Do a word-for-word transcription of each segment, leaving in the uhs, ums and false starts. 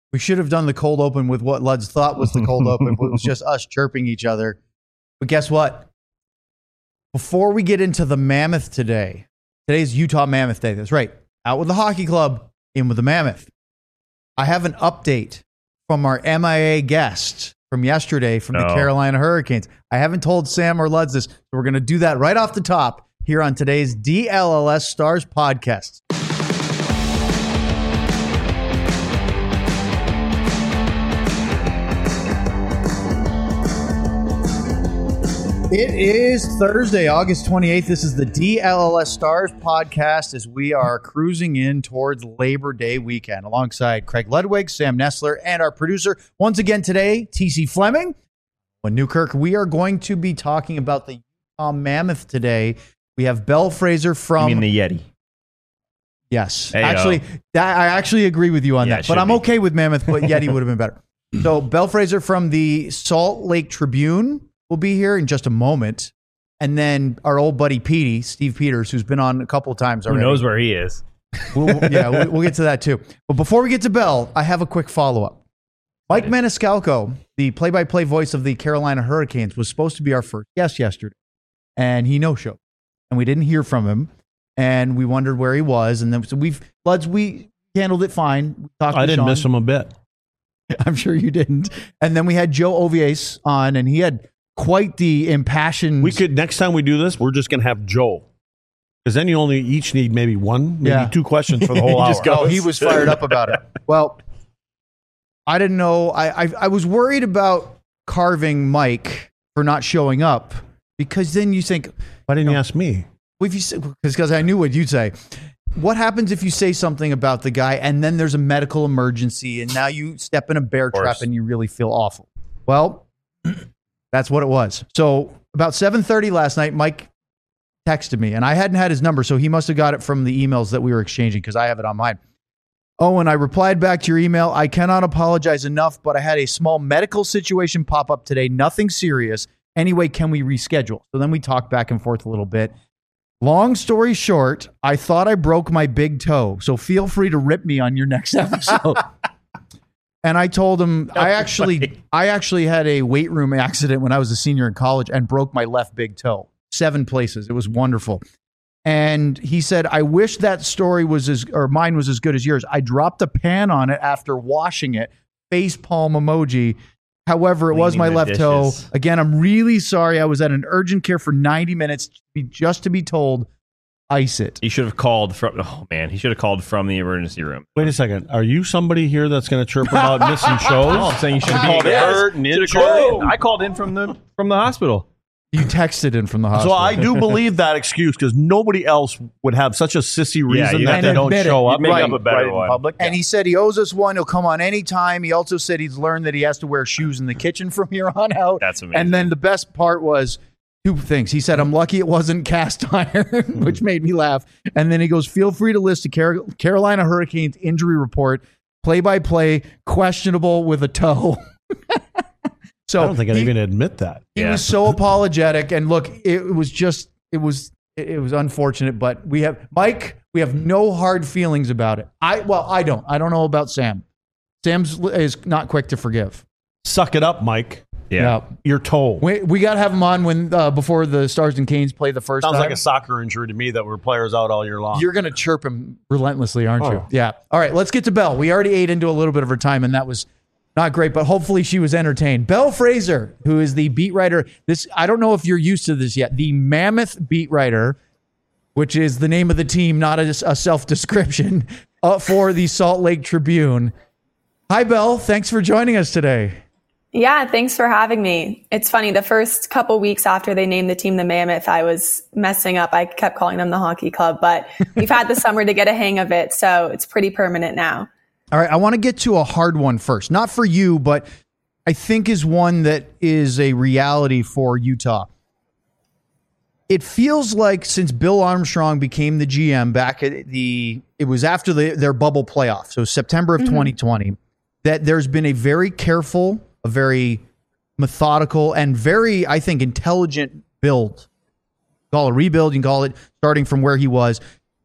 We should have done the cold open with what Luds thought was the cold open, but it was just us chirping each other. But guess what? Before we get into the Mammoth today, today's Utah Mammoth Day. That's right. Out with the hockey club, in with the Mammoth. I have an update from our M I A guest from yesterday from no. the Carolina Hurricanes. I haven't told Sam or Luds this, so we're going to do that right off the top here on today's D L L S Stars podcast. It is Thursday, August twenty-eighth. This is the D L L S Stars podcast as we are cruising in towards Labor Day weekend alongside Craig Ludwig, Sam Nestler, and our producer once again today, T C Fleming. When Newkirk, we are going to be talking about the Utah Mammoth today. We have Belle Fraser from... You mean the Yeti? Yes. Hey, actually, that, I actually agree with you on yeah, that, but I'm be. okay with Mammoth, but Yeti would have been better. So Belle Fraser from the Salt Lake Tribune will be here in just a moment. And then our old buddy Petey, Steve Peters, who's been on a couple of times already. Who knows where he is? We'll, yeah, we'll, we'll get to that too. But before we get to Bell, I have a quick follow-up. Mike Maniscalco, the play-by-play voice of the Carolina Hurricanes, was supposed to be our first guest yesterday. And he no-showed. And we didn't hear from him. And we wondered where he was. And then so we've, Luds, we handled it fine. We talked I to didn't Sean. miss him a bit. I'm sure you didn't. And then we had Joe Ovies on, and he had quite the impassioned... We could, next time we do this, we're just going to have Joe. Because then you only each need maybe one, maybe yeah. two questions for the whole hour. Just go. He was fired up about it. Well, I didn't know. I, I I was worried about carving Mike for not showing up, because then you think... Why didn't you, know, you ask me? Well, if you because I knew what you'd say. What happens if you say something about the guy and then there's a medical emergency and now you step in a bear trap and you really feel awful? Well... That's what it was. So about seven thirty last night, Mike texted me, and I hadn't had his number, so he must have got it from the emails that we were exchanging because I have it on mine. Oh, and I replied back to your email. I cannot apologize enough, but I had a small medical situation pop up today. Nothing serious. Anyway, can we reschedule? So then we talked back and forth a little bit. Long story short, I thought I broke my big toe, so feel free to rip me on your next episode. And I told him I actually funny. I actually had a weight room accident when I was a senior in college and broke my left big toe. Seven places. It was wonderful. And he said, I wish that story was as, or mine was as good as yours. I dropped a pan on it after washing it. Face palm emoji. However, it Cleaning was my left dishes. toe. Again, I'm really sorry. I was at an urgent care for ninety minutes just to be told, ice it. He should have called from, oh man, he should have called from the emergency room. Wait a second. Are you somebody here that's going to chirp about missing shows? Oh, I'm saying you should have called in. in. I called in from the from the hospital. You texted in from the hospital. So I do believe that excuse because nobody else would have such a sissy reason yeah, that they don't show it. up. Make right, up a better right one. In public. And he said he owes us one. He'll come on anytime. He also said he's learned that he has to wear shoes in the kitchen from here on out. That's amazing. And then the best part was two things. He said, I'm lucky it wasn't cast iron, which made me laugh. And then he goes, feel free to list the Car- Carolina Hurricanes injury report, play-by-play, questionable with a toe. So I don't think I'd he, even admit that. He yeah. was so apologetic. And look, it was just, it was, it was unfortunate, but we have, Mike, we have no hard feelings about it. I, well, I don't. I don't know about Sam. Sam's is not quick to forgive. Suck it up, Mike. Yeah. yeah. Your toe. We, we got to have him on when uh, before the Stars and Canes play the first Sounds time. like a soccer injury to me that were players out all year long. You're going to chirp him relentlessly, aren't oh. you? Yeah. All right, let's get to Belle. We already ate into a little bit of her time, and that was not great, but hopefully she was entertained. Belle Fraser, who is the beat writer. This I don't know if you're used to this yet. The Mammoth beat writer, which is the name of the team, not a, a self-description, uh, for the Salt Lake Tribune. Hi, Belle. Thanks for joining us today. Yeah, thanks for having me. It's funny, the first couple weeks after they named the team the Mammoth, I was messing up. I kept calling them the hockey club, but we've had the summer to get a hang of it, so it's pretty permanent now. All right, I want to get to a hard one first. Not for you, but I think is one that is a reality for Utah. It feels like since Bill Armstrong became the G M back at the, it was after the, their bubble playoff, so September of mm-hmm. twenty twenty, that there's been a very careful, a very methodical, and very, I think, intelligent build. Call it a rebuild, you can call it starting from where he was,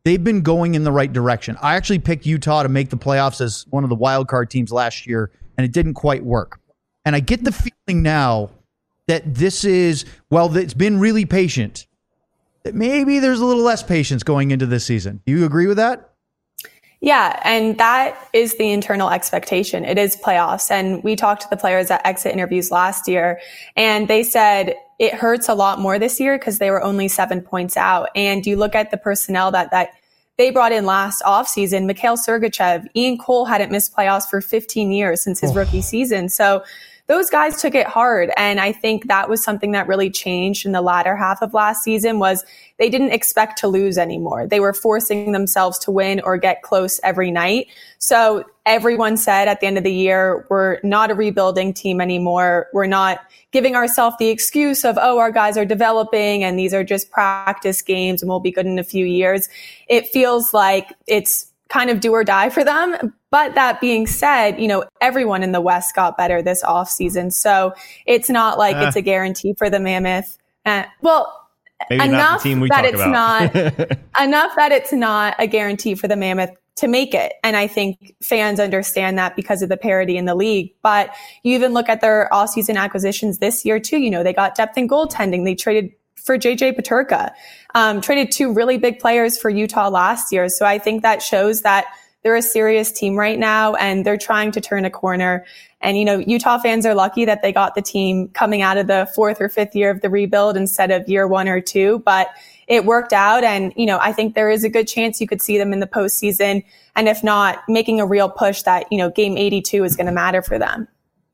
they've been going in the right direction. I actually picked Utah to make the playoffs as one of the wild card teams last year, and it didn't quite work. And I get the feeling now that this is, well, it's been really patient, that maybe there's a little less patience going into this season. Do you agree with that? Yeah, and that is the internal expectation. It is playoffs. And we talked to the players at exit interviews last year, and they said it hurts a lot more this year because they were only seven points out. And you look at the personnel that, that they brought in last offseason, Mikhail Sergachev, Ian Cole hadn't missed playoffs for fifteen years since his oh. rookie season. So those guys took it hard. And I think that was something that really changed in the latter half of last season was they didn't expect to lose anymore. They were forcing themselves to win or get close every night. So everyone said at the end of the year, we're not a rebuilding team anymore. We're not giving ourselves the excuse of, oh, our guys are developing and these are just practice games and we'll be good in a few years. It feels like it's kind of do or die for them. But that being said, you know, everyone in the West got better this offseason. So it's not like uh, it's a guarantee for the Mammoth. Uh, well, enough not the that it's about. not enough that it's not a guarantee for the Mammoth to make it. And I think fans understand that because of the parity in the league. But you even look at their offseason acquisitions this year too. You know, they got depth in goaltending. They traded for J J Peterka, um, traded two really big players for Utah last year. So I think that shows that they're a serious team right now and they're trying to turn a corner. And, you know, Utah fans are lucky that they got the team coming out of the fourth or fifth year of the rebuild instead of year one or two, but it worked out. And, you know, I think there is a good chance you could see them in the postseason. And if not, making a real push that, you know, game eighty-two is going to matter for them.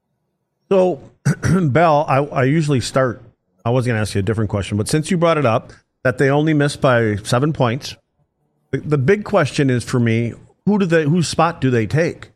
So, Belle, I, I usually start, I was going to ask you a different question, but since you brought it up, that they only missed by seven points, the, the big question is for me, who do they, whose spot do they take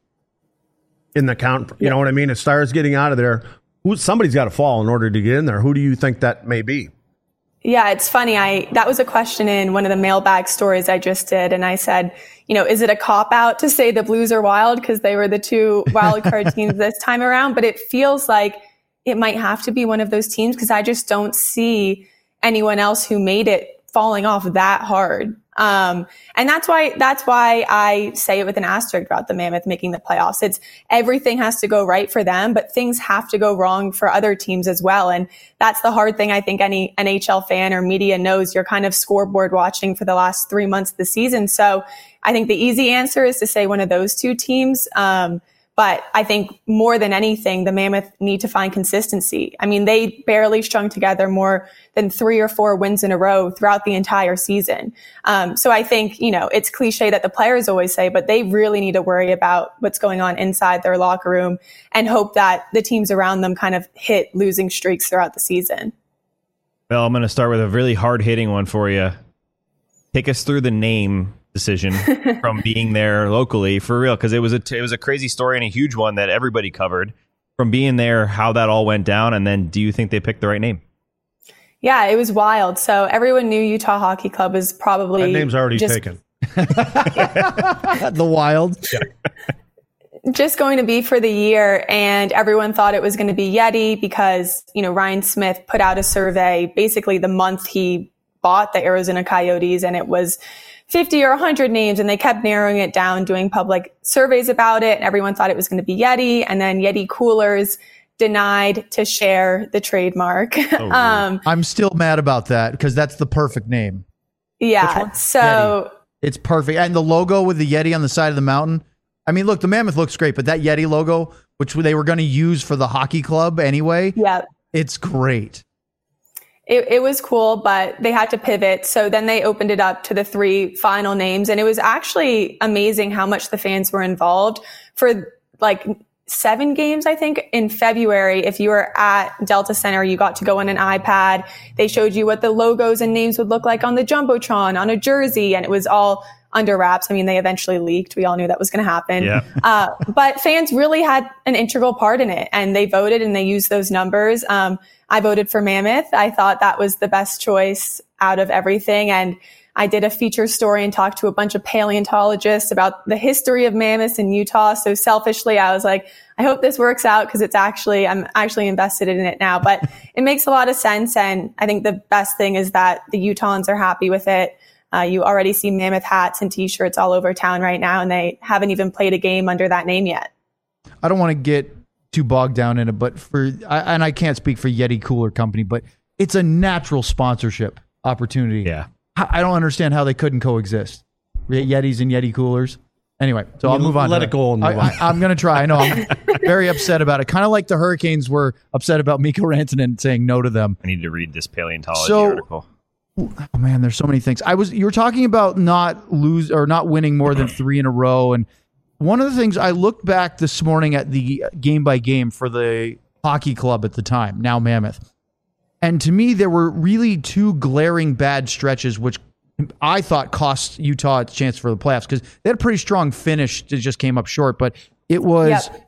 in the count? You yeah. know what I mean? If Stars getting out of there, who, somebody's got to fall in order to get in there. Who do you think that may be? Yeah, it's funny. I that was a question in one of the mailbag stories I just did. And I said, you know, is it a cop-out to say the Blues are wild because they were the two wild card teams this time around? But it feels like it might have to be one of those teams because I just don't see anyone else who made it falling off that hard. Um, and that's why, that's why I say it with an asterisk about the Mammoth making the playoffs. It's everything has to go right for them, but things have to go wrong for other teams as well. And that's the hard thing. I think any N H L fan or media knows. You're kind of scoreboard watching for the last three months of the season. So I think the easy answer is to say one of those two teams. Um, But I think more than anything, the Mammoth need to find consistency. I mean, they barely strung together more than three or four wins in a row throughout the entire season. Um, so I think, you know, it's cliche that the players always say, but they really need to worry about what's going on inside their locker room and hope that the teams around them kind of hit losing streaks throughout the season. Well, I'm going to start with a really hard-hitting one for you. Take us through the name decision from being there locally for real, because it was a t- it was a crazy story and a huge one that everybody covered from being there, how that all went down, and then do you think they picked the right name? Yeah, it was wild. So everyone knew Utah Hockey Club was probably that name's already just, taken. The Wild. Yeah. Just going to be for the year, and everyone thought it was going to be Yeti because, you know, Ryan Smith put out a survey basically the month he bought the Arizona Coyotes, and it was fifty or one hundred names, and they kept narrowing it down, doing public surveys about it. And everyone thought it was going to be Yeti, and then Yeti Coolers denied to share the trademark. Oh, um, I'm still mad about that because that's the perfect name. Yeah. So Yeti. It's perfect. And the logo with the Yeti on the side of the mountain. I mean, look, the Mammoth looks great, but that Yeti logo, which they were going to use for the hockey club anyway, yeah, it's great. It, it was cool, but they had to pivot. So then they opened it up to the three final names. And it was actually amazing how much the fans were involved for like seven games, I think, in February. If you were at Delta Center, you got to go on an iPad. They showed you what the logos and names would look like on the Jumbotron, on a jersey, and it was all under wraps. I mean, they eventually leaked. We all knew that was going to happen. Yeah. uh, but fans really had an integral part in it, and they voted and they used those numbers. Um, I voted for Mammoth. I thought that was the best choice out of everything. And I did a feature story and talked to a bunch of paleontologists about the history of mammoths in Utah. So selfishly, I was like, I hope this works out because it's actually, I'm actually invested in it now, but it makes a lot of sense. And I think the best thing is that the Utahns are happy with it. Uh, you already see Mammoth hats and t-shirts all over town right now, and they haven't even played a game under that name yet. I don't want to get too bogged down in it, but for, I, and I can't speak for Yeti Cooler Company, but it's a natural sponsorship opportunity. Yeah. I don't understand how they couldn't coexist. Yetis and Yeti coolers. Anyway, so I'll move on. Let it go and move I, on. I, I'm going to try. I know I'm very upset about it. Kind of like the Hurricanes were upset about Mikko Rantanen saying no to them. I need to read this paleontology So- article. Oh man, there's so many things. I was you were talking about not lose or not winning more than three in a row, and one of the things I looked back this morning at the game by game for the hockey club at the time, now Mammoth, and to me there were really two glaring bad stretches, which I thought cost Utah its chance for the playoffs because they had a pretty strong finish. It just came up short, but it was. Yep.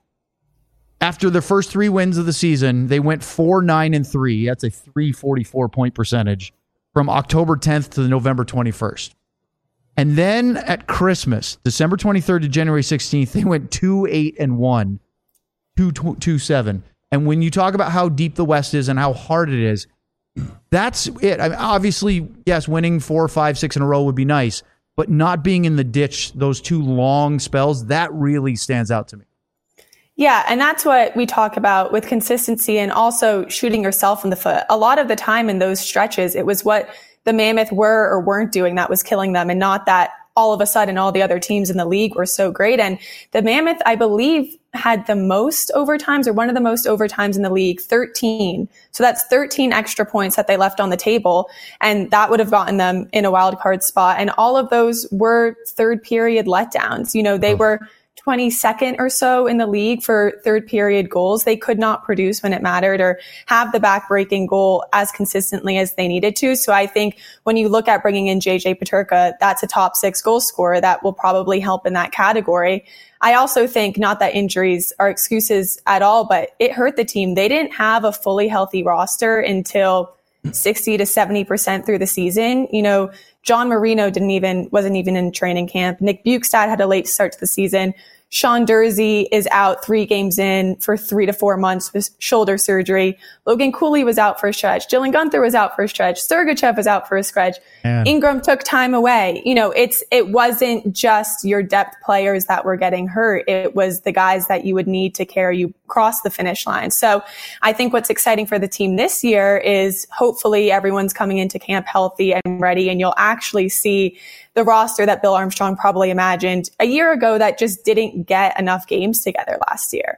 After the first three wins of the season, they went four, nine, and three. That's a three forty-four point percentage from October tenth to November twenty-first. And then at Christmas, December twenty-third to January sixteenth, they went two, eight, and one, two, two, seven. And when you talk about how deep the West is and how hard it is, that's it. I mean, obviously, yes, winning four, five, six in a row would be nice, but not being in the ditch those two long spells, that really stands out to me. Yeah, and that's what we talk about with consistency and also shooting yourself in the foot. A lot of the time in those stretches, it was what the Mammoth were or weren't doing that was killing them, and not that all of a sudden all the other teams in the league were so great. And the Mammoth, I believe, had the most overtimes or one of the most overtimes in the league, thirteen. So that's thirteen extra points that they left on the table, and that would have gotten them in a wild card spot. And all of those were third period letdowns. You know, they oh. were twenty-second or so in the league for third period goals. They could not produce when it mattered or have the back-breaking goal as consistently as they needed to. So I think when you look at bringing in J J Peterka, that's a top six goal scorer that will probably help in that category. I also think, not that injuries are excuses at all, but it hurt the team. They didn't have a fully healthy roster until sixty to seventy percent through the season. You know, John Marino didn't even, wasn't even in training camp. Nick Bukestad had a late start to the season. Sean Dursey is out three games in for three to four months with shoulder surgery. Logan Cooley was out for a stretch. Dylan Gunther was out for a stretch. Sergachev was out for a stretch. Man. Ingram took time away. You know, it's, it wasn't just your depth players that were getting hurt. It was the guys that you would need to carry you across the finish line. So I think what's exciting for the team this year is hopefully everyone's coming into camp healthy and ready, and you'll actually see the roster that Bill Armstrong probably imagined a year ago that just didn't get enough games together last year.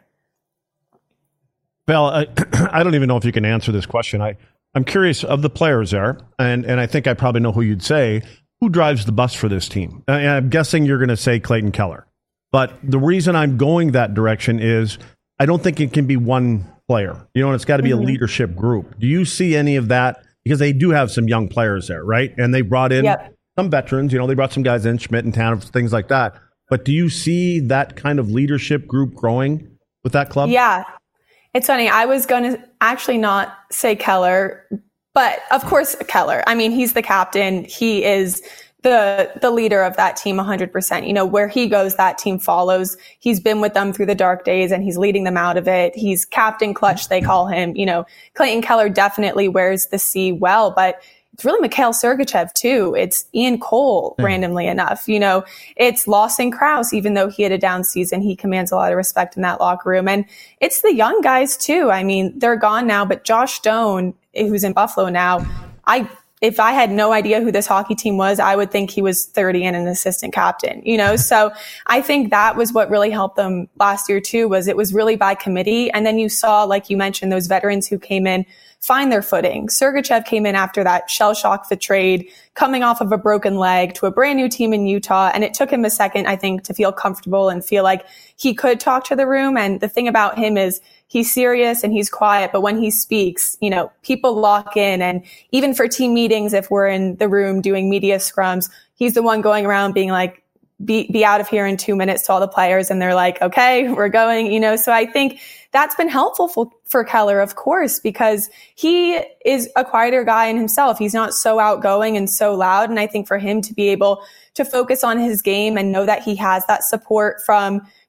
Well, I, I don't even know if you can answer this question. I, I'm curious of the players there, and, and I think I probably know who you'd say. Who drives the bus for this team? And I'm guessing you're going to say Clayton Keller. But the reason I'm going that direction is I don't think it can be one player. You know, and it's got to be mm-hmm. a leadership group. Do you see any of that? Because they do have some young players there, right? And they brought in yep. some veterans. You know, they brought some guys in, Schmidt and Tanner, things like that. But do you see that kind of leadership group growing with that club? Yeah. It's funny. I was going to actually not say Keller, but of course Keller. I mean, he's the captain. He is the the leader of that team one hundred percent. You know, where he goes, that team follows. He's been with them through the dark days and he's leading them out of it. He's Captain Clutch, they call him. You know, Clayton Keller definitely wears the C well, but it's really Mikhail Sergachev too. It's Ian Cole, mm. randomly enough. You know, it's Lawson Krause, even though he had a down season, he commands a lot of respect in that locker room. And it's the young guys too. I mean, they're gone now, but Josh Stone, who's in Buffalo now, I if I had no idea who this hockey team was, I would think he was thirty and an assistant captain, you know? So I think that was what really helped them last year too, was it was really by committee. And then you saw, like you mentioned, those veterans who came in, find their footing. Sergachev came in after that shell shock of the trade, coming off of a broken leg to a brand new team in Utah. And it took him a second, I think, to feel comfortable and feel like he could talk to the room. And the thing about him is he's serious and he's quiet, but when he speaks, you know, people lock in. And even for team meetings, if we're in the room doing media scrums, he's the one going around being like, be, be out of here in two minutes to all the players. And they're like, okay, we're going, you know, so I think that's been helpful for, for Keller, of course, because he is a quieter guy in himself. He's not so outgoing and so loud. And I think for him to be able to focus on his game and know that he has that support from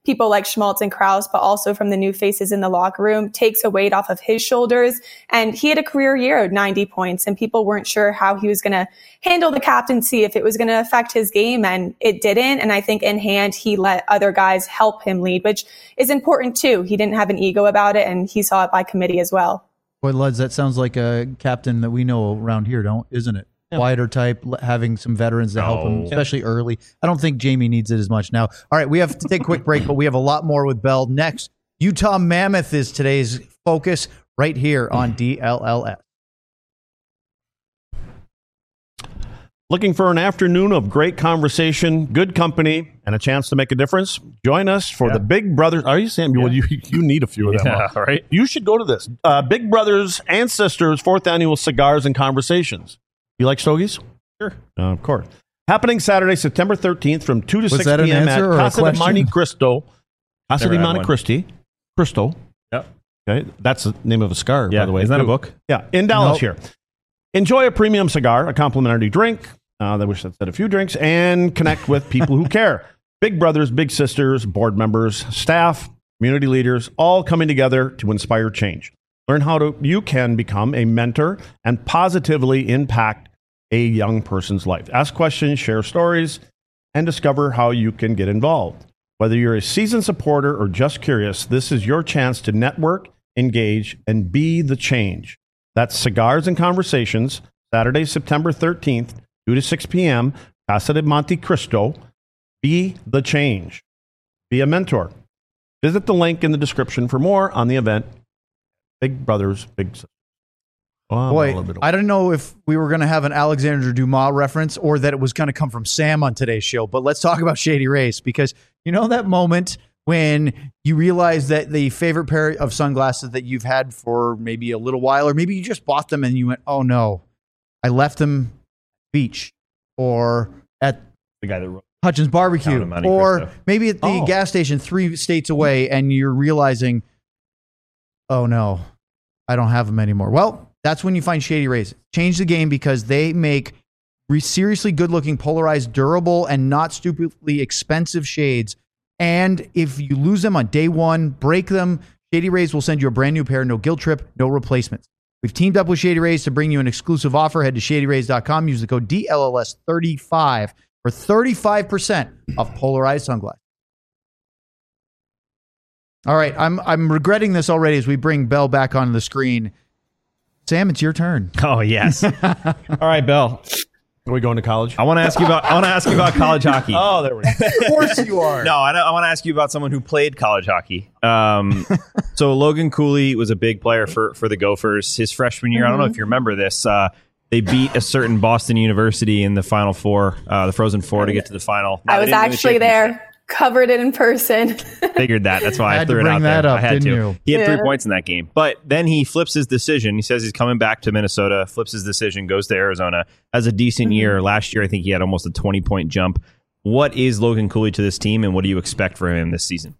people like Schmaltz and Krause, but also from the new faces in the locker room, takes a weight off of his shoulders. And he had a career year of ninety points, and people weren't sure how he was going to handle the captaincy, if it was going to affect his game, and it didn't. And I think in hand, he let other guys help him lead, which is important too. He didn't have an ego about it, and he saw it by committee as well. Boy, Luds, that sounds like a captain that we know around here, don't isn't it? Yeah. Quieter type, having some veterans to help him, especially early. I don't think Jamie needs it as much now. All right, we have to take a quick break, but we have a lot more with Bell next. Utah Mammoth is today's focus right here on D L L S. Looking for an afternoon of great conversation, good company, and a chance to make a difference? Join us for yeah. the Big Brothers. Are you saying, yeah. well, you, you need a few of them. Yeah, huh? Right? You should go to this. Uh, Big Brothers and Sisters fourth Annual Cigars and Conversations. You like stogies? Sure. Uh, of course. Happening Saturday, September thirteenth from two to Was six that p.m. an at answer or a Casa de question? Monte Cristo. Casa Never de had Monte one. Cristi. Cristo. Yep. Okay. That's the name of a cigar, Yeah. by the way. Isn't that a too. book? Yeah. In Dallas Nope. here. Enjoy a premium cigar, a complimentary drink. Uh, I wish that said a few drinks, and connect with people who care. Big brothers, big sisters, board members, staff, community leaders, all coming together to inspire change. Learn how to you can become a mentor and positively impact a young person's life. Ask questions, share stories, and discover how you can get involved. Whether you're a seasoned supporter or just curious, this is your chance to network, engage, and be the change. That's Cigars and Conversations, Saturday, September thirteenth, two to six p.m., Casa de Monte Cristo. Be the change. Be a mentor. Visit the link in the description for more on the event. Big Brothers, Big Sisters. Oh, Boy, I don't know if we were going to have an Alexander Dumas reference or that it was going to come from Sam on today's show, but let's talk about Shady Rays, because you know that moment when you realize that the favorite pair of sunglasses that you've had for maybe a little while, or maybe you just bought them and you went, oh no, I left them beach or at The guy that wrote Hutchins Barbecue, Down in Monte or Cristo. maybe at the Oh. gas station three states away, and you're realizing, oh no, I don't have them anymore. Well, that's when you find Shady Rays. Change the game, because they make re- seriously good-looking, polarized, durable, and not stupidly expensive shades. And if you lose them on day one, break them, Shady Rays will send you a brand new pair, no guilt trip, no replacements. We've teamed up with Shady Rays to bring you an exclusive offer. Head to shady rays dot com. Use the code D L L S thirty-five for thirty-five percent off polarized sunglasses. All right, I'm I'm regretting this already as we bring Bell back on the screen. Sam, it's your turn. Oh, yes. All right, Bell. Are we going to college? I want to ask you about I want to ask you about college hockey. Oh, there we go. Of course you are. No, I, I want to ask you about someone who played college hockey. Um, so Logan Cooley was a big player for, for the Gophers. His freshman year, mm-hmm. I don't know if you remember this, uh, they beat a certain Boston University in the Final Four, uh, the Frozen Four, to get to the final. No, I was actually the there, covered it in person. Figured that. That's why I, I had threw to it bring out that there. up, I had didn't to. you? He had Yeah. three points in that game. But then he flips his decision. He says he's coming back to Minnesota, flips his decision, goes to Arizona. Has a decent mm-hmm. year. Last year, I think he had almost a twenty-point jump. What is Logan Cooley to this team, and what do you expect from him this season?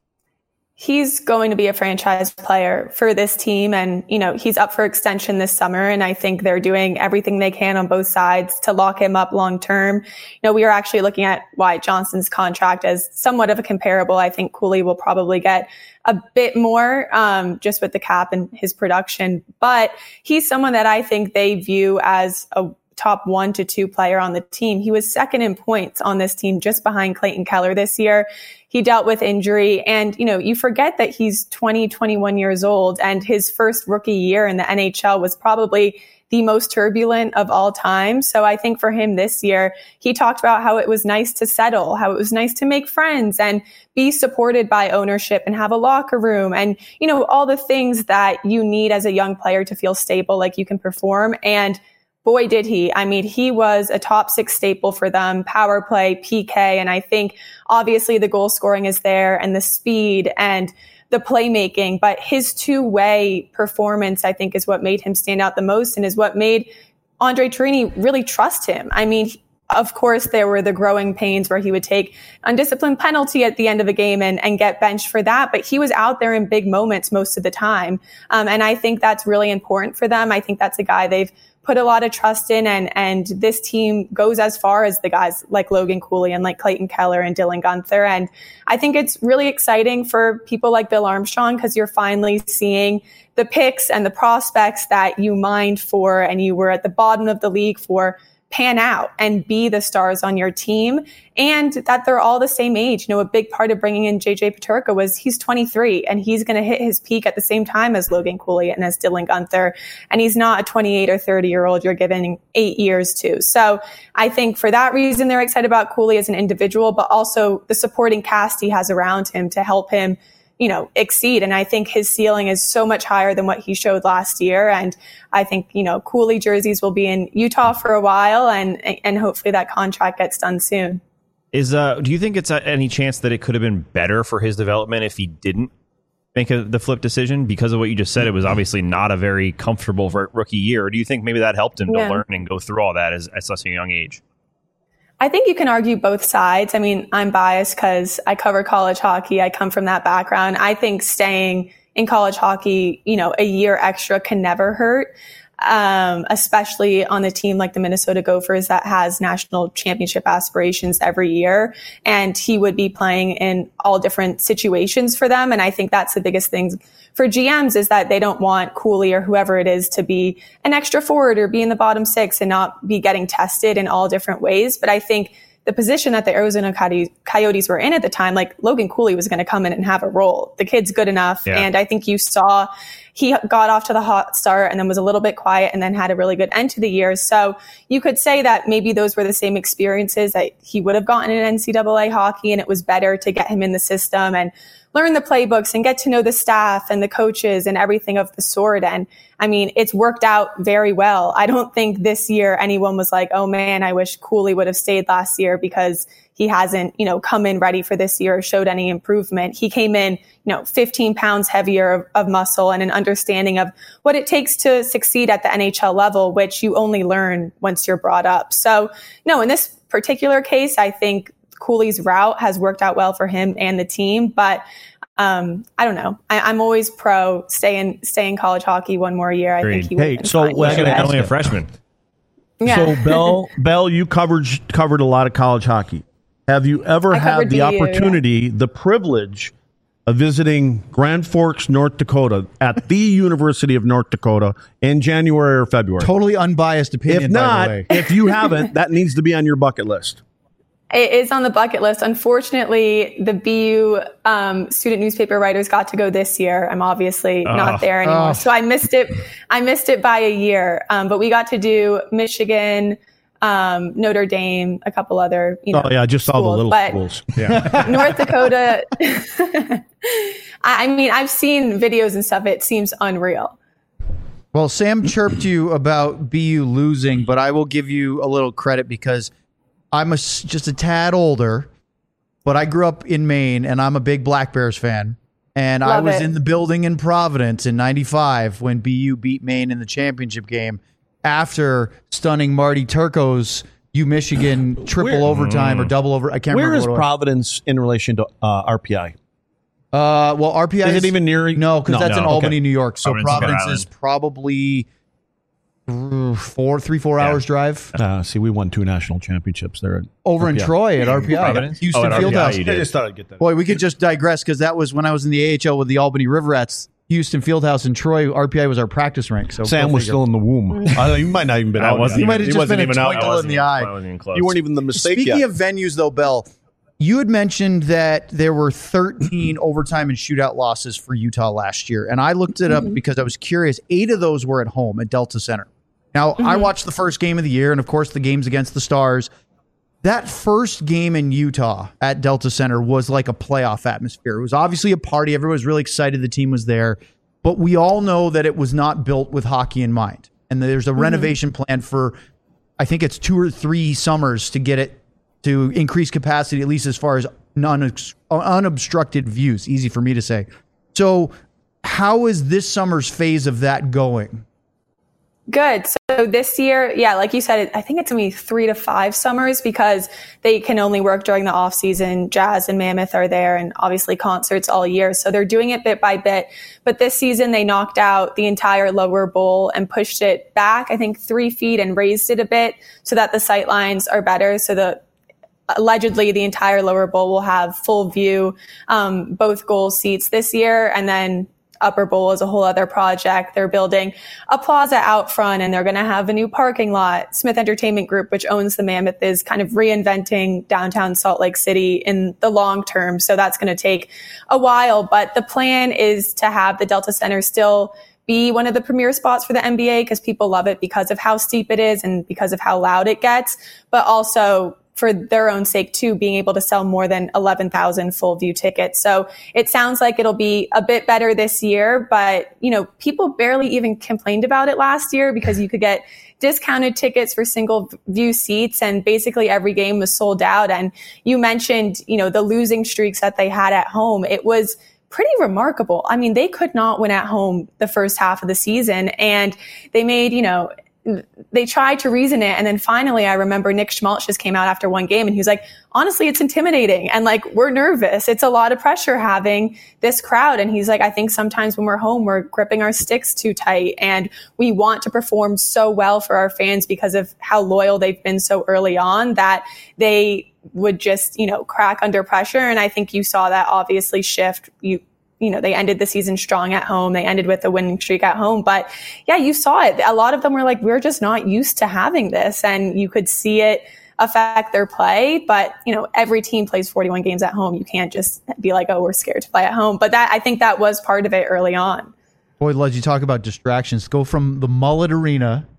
He's going to be a franchise player for this team, and you know he's up for extension this summer, and I think they're doing everything they can on both sides to lock him up long term. You know, we are actually looking at Wyatt Johnson's contract as somewhat of a comparable. I think Cooley will probably get a bit more um, just with the cap and his production, but he's someone that I think they view as a top one to two player on the team. He was second in points on this team, just behind Clayton Keller this year. He dealt with injury, and, you know, you forget that he's twenty, twenty-one years old, and his first rookie year in the N H L was probably the most turbulent of all time. So I think for him this year, he talked about how it was nice to settle, how it was nice to make friends and be supported by ownership and have a locker room and, you know, all the things that you need as a young player to feel stable, like you can perform. And boy, did he. I mean, he was a top six staple for them, power play, P K. And I think obviously the goal scoring is there and the speed and the playmaking, but his two-way performance, I think, is what made him stand out the most and is what made Andre Torini really trust him. I mean, of course, there were the growing pains where he would take undisciplined penalty at the end of a game and, and get benched for that. But he was out there in big moments most of the time. Um, and I think that's really important for them. I think that's a guy they've put a lot of trust in, and and this team goes as far as the guys like Logan Cooley and like Clayton Keller and Dylan Guenther. And I think it's really exciting for people like Bill Armstrong, because you're finally seeing the picks and the prospects that you mined for and you were at the bottom of the league for pan out and be the stars on your team, and that they're all the same age. You know, a big part of bringing in J J Peterka was he's twenty-three and he's going to hit his peak at the same time as Logan Cooley and as Dylan Guenther. And he's not a twenty-eight or thirty year old you're giving eight years to. So I think for that reason, they're excited about Cooley as an individual, but also the supporting cast he has around him to help him, you know, exceed. And I think his ceiling is so much higher than what he showed last year. And I think, you know, Cooley jerseys will be in Utah for a while, and and hopefully that contract gets done soon. Is uh, do you think it's any chance that it could have been better for his development if he didn't make a, the flip decision? Because of what you just said, it was obviously not a very comfortable rookie year. Or do you think maybe that helped him yeah. to learn and go through all that as, at such a young age? I think you can argue both sides. I mean, I'm biased because I cover college hockey. I come from that background. I think staying in college hockey, you know, a year extra can never hurt, um, especially on a team like the Minnesota Gophers that has national championship aspirations every year. And he would be playing in all different situations for them. And I think that's the biggest thing for G Ms, is that they don't want Cooley or whoever it is to be an extra forward or be in the bottom six and not be getting tested in all different ways. But I think the position that the Arizona Coyotes were in at the time, like Logan Cooley was going to come in and have a role. The kid's good enough. Yeah. And I think you saw he got off to the hot start and then was a little bit quiet and then had a really good end to the year. So you could say that maybe those were the same experiences that he would have gotten in N C double A hockey, and it was better to get him in the system and learn the playbooks and get to know the staff and the coaches and everything of the sort. And I mean, it's worked out very well. I don't think this year anyone was like, oh man, I wish Cooley would have stayed last year because he hasn't, you know, come in ready for this year or showed any improvement. He came in, you know, fifteen pounds heavier of, of muscle and an understanding of what it takes to succeed at the N H L level, which you only learn once you're brought up. So no, in this particular case, I think Cooley's route has worked out well for him and the team, but um, I don't know. I, I'm always pro stay in stay in college hockey one more year. I Agreed. think he would. Hey, so well, only a freshman. Yeah. So Bell, Bell, you covered covered a lot of college hockey. Have you ever I had the D U, opportunity, yeah. the privilege of visiting Grand Forks, North Dakota, at the University of North Dakota in January or February? Totally unbiased opinion. If by not, the way. if you haven't, that needs to be on your bucket list. It is on the bucket list. Unfortunately, the B U um, student newspaper writers got to go this year. I'm obviously oh, not there anymore. Oh. So I missed it. I missed it by a year. Um, but we got to do Michigan, um, Notre Dame, a couple other, you know. Oh, yeah, just all the little but schools. Yeah. North Dakota. I mean, I've seen videos and stuff. It seems unreal. Well, Sam chirped you about B U losing, but I will give you a little credit because I'm a, just a tad older, but I grew up in Maine, and I'm a big Black Bears fan. And Love I was it. in the building in Providence in ninety-five when B U beat Maine in the championship game after stunning Marty Turco's U Michigan triple Where- overtime or double over. I can't Where remember is what it was. Providence in relation to uh, R P I? Uh, well, R P I Is it even near? No, because No. that's in No, Albany, okay. New York. So Providence is Providence Rhode is probably uh, four, three, four Yeah. hours drive Uh, see, we won two national championships there. At over in R P I. Troy at R P I, Providence? Houston Oh, at R P I Fieldhouse. you I did. just thought I'd get that. Boy, we could just digress because that was when I was in the A H L with the Albany Riverets. Houston Fieldhouse in Troy, R P I was our practice rink. So Sam go was figure. still in the womb. Uh, you might not even been I out. wasn't yet. You might have He just wasn't been a even out twinkle yet. in the eye. I wasn't even close. You weren't even the mistake Speaking yet. of venues, though, Bell, you had mentioned that there were thirteen overtime and shootout losses for Utah last year. And I looked it up Mm-hmm. because I was curious. Eight of those were at home at Delta Center. Now, I Mm-hmm. watched the first game of the year and, of course, the games against the Stars. That first game in Utah at Delta Center was like a playoff atmosphere. It was obviously a party. Everyone was really excited the team was there. But we all know that it was not built with hockey in mind. And there's a Mm-hmm. renovation plan for, I think it's two or three summers to get it to increase capacity, at least as far as non unobstructed views. Easy for me to say. So how is this summer's phase of that going? Good. So this year, yeah, like you said, I think it's going to be three to five summers because they can only work during the off season. Jazz and Mammoth are there and obviously concerts all year. So they're doing it bit by bit. But this season they knocked out the entire lower bowl and pushed it back, I think three feet and raised it a bit so that the sight lines are better. So the allegedly the entire lower bowl will have full view, um, both goal seats this year. And then Upper Bowl is a whole other project. They're building a plaza out front and they're going to have a new parking lot. Smith Entertainment Group, which owns the Mammoth, is kind of reinventing downtown Salt Lake City in the long term. So that's going to take a while. But the plan is to have the Delta Center still be one of the premier spots for the N B A because people love it because of how steep it is and because of how loud it gets, but also for their own sake too, being able to sell more than eleven thousand full view tickets. So it sounds like it'll be a bit better this year, but you know, people barely even complained about it last year because you could get discounted tickets for single view seats and basically every game was sold out. And you mentioned, you know, the losing streaks that they had at home. It was pretty remarkable. I mean, they could not win at home the first half of the season and they made, you know, they tried to reason it. And then finally, I remember Nick Schmaltz just came out after one game and he was like, honestly, it's intimidating. And like, we're nervous. It's a lot of pressure having this crowd. And he's like, I think sometimes when we're home, we're gripping our sticks too tight and we want to perform so well for our fans because of how loyal they've been so early on that they would just, you know, crack under pressure. And I think you saw that obviously shift. You, You know, they ended the season strong at home. They ended with a winning streak at home. But yeah, you saw it. A lot of them were like, we're just not used to having this. And you could see it affect their play. But, you know, every team plays forty-one games at home. You can't just be like, oh, we're scared to play at home. But that, I think that was part of it early on. Boy, Les, you talk about distractions. Go from the Mullet Arena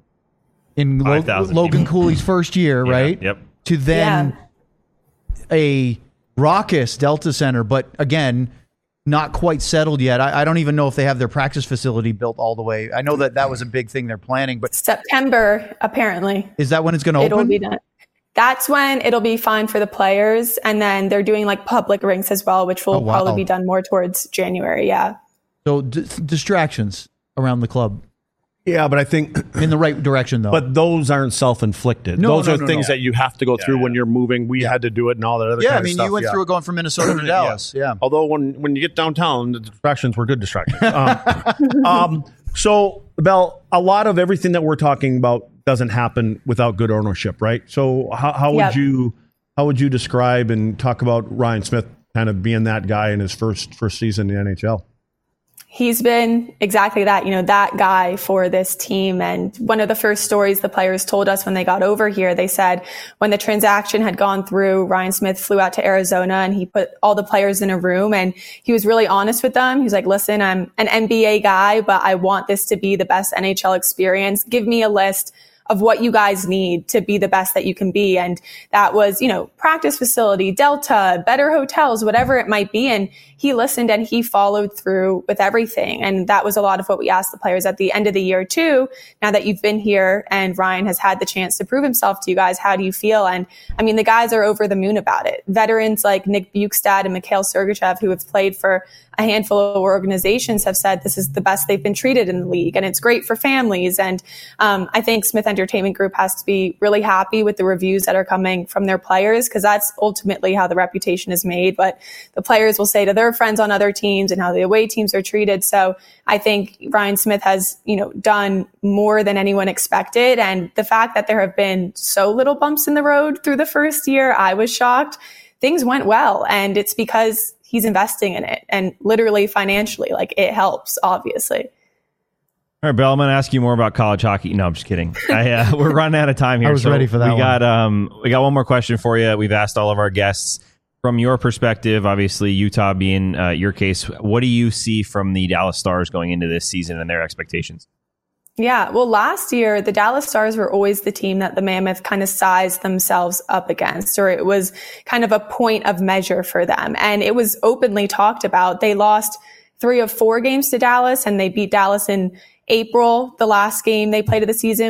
in Lo- Logan Cooley's first year, yeah, right? Yep. To then yeah. a raucous Delta Center. But again, not quite settled yet. I, I don't even know if they have their practice facility built all the way. I know that that was a big thing they're planning, but September, apparently. Is that when it's going to open? It'll be done. That's when it'll be fine for the players. And then they're doing like public rinks as well, which will oh, wow. probably be done more towards January. Yeah. So d- distractions around the club. Yeah, but I think in the right direction, though. But those aren't self-inflicted. No, those no, are no, things no. that you have to go yeah, through yeah. when you're moving. We yeah. had to do it and all that other yeah, kind I mean, of stuff. you went yeah. through it going from Minnesota to Dallas. Yeah. yeah. Although when, when you get downtown, the distractions were good distractions. Um, um, so, Belle, a lot of everything that we're talking about doesn't happen without good ownership, right? So how, how yep. would you how would you describe and talk about Ryan Smith kind of being that guy in his first first season in the N H L? He's been exactly that, you know, that guy for this team. And one of the first stories the players told us when they got over here, they said when the transaction had gone through, Ryan Smith flew out to Arizona and he put all the players in a room and he was really honest with them. He was like, listen, I'm an N B A guy, but I want this to be the best N H L experience. Give me a list of what you guys need to be the best that you can be. And that was, you know, practice facility, Delta, better hotels, whatever it might be. And he listened and he followed through with everything. And that was a lot of what we asked the players at the end of the year too. Now that you've been here and Ryan has had the chance to prove himself to you guys, how do you feel? And I mean, the guys are over the moon about it. Veterans like Nick Bukestad and Mikhail Sergachev, who have played for a handful of organizations, have said this is the best they've been treated in the league and it's great for families. And um, I think Smith Entertainment Group has to be really happy with the reviews that are coming from their players because that's ultimately how the reputation is made. But the players will say to their friends on other teams and how the away teams are treated. So I think Ryan Smith has, you know, done more than anyone expected. And the fact that there have been so little bumps in the road through the first year, I was shocked. Things went well. And it's because he's investing in it and literally financially, like it helps, obviously. All right, Belle, I'm going to ask you more about college hockey. No, I'm just kidding. I, uh, we're running out of time here. I was so ready for that we one. got um, we got one more question for you. We've asked all of our guests from your perspective, obviously Utah being uh, your case. What do you see from the Dallas Stars going into this season and their expectations? Yeah, well, last year, the Dallas Stars were always the team that the Mammoth kind of sized themselves up against, or it was kind of a point of measure for them. And it was openly talked about. They lost three of four games to Dallas, and they beat Dallas in April, the last game they played of the season. But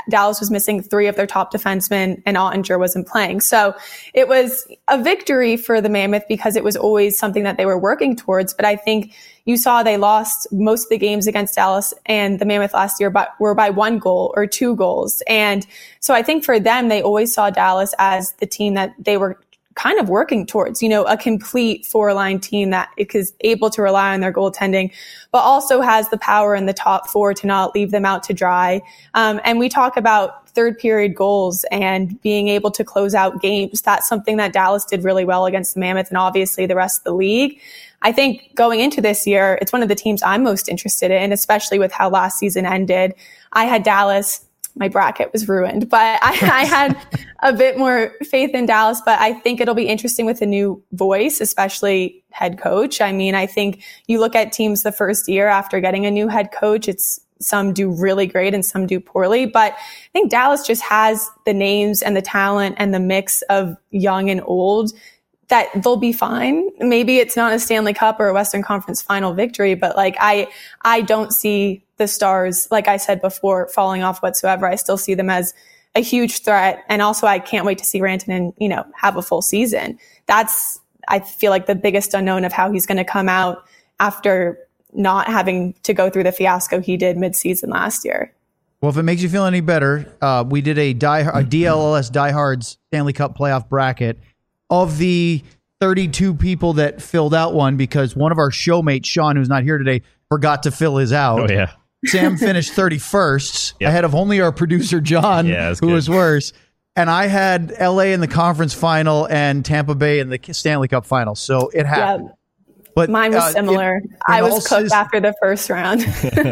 Dallas was missing three of their top defensemen and Ottinger wasn't playing. So it was a victory for the Mammoth because it was always something that they were working towards. But I think you saw they lost most of the games against Dallas and the Mammoth last year, but were by one goal or two goals. And so I think for them, they always saw Dallas as the team that they were kind of working towards, you know, a complete four-line team that is able to rely on their goaltending, but also has the power in the top four to not leave them out to dry. Um, and we talk about third period goals and being able to close out games. That's something that Dallas did really well against the Mammoth and obviously the rest of the league. I think going into this year, it's one of the teams I'm most interested in, especially with how last season ended. I had Dallas. My bracket was ruined, but I, I had a bit more faith in Dallas, but I think it'll be interesting with a new voice, especially head coach. I mean, I think you look at teams the first year after getting a new head coach, it's some do really great and some do poorly, but I think Dallas just has the names and the talent and the mix of young and old that they'll be fine. Maybe it's not a Stanley Cup or a Western Conference final victory, but like I, I don't see the Stars, like I said before, falling off whatsoever. I still see them as a huge threat. And also I can't wait to see Rantanen, you know, have a full season. That's, I feel like the biggest unknown of how he's going to come out after not having to go through the fiasco he did mid-season last year. Well, if it makes you feel any better, uh, we did a, die, a D L L S Diehards Stanley Cup playoff bracket. Of the thirty-two people that filled out one, because one of our showmates, Sean, who's not here today, forgot to fill his out. Oh, yeah. Sam finished thirty-first, Yep. ahead of only our producer, John, Yeah, that's who good. was worse. And I had L A in the conference final and Tampa Bay in the Stanley Cup final. So it happened. Yep. But Mine was uh, similar. in- in I all was cooked sis- after the first round.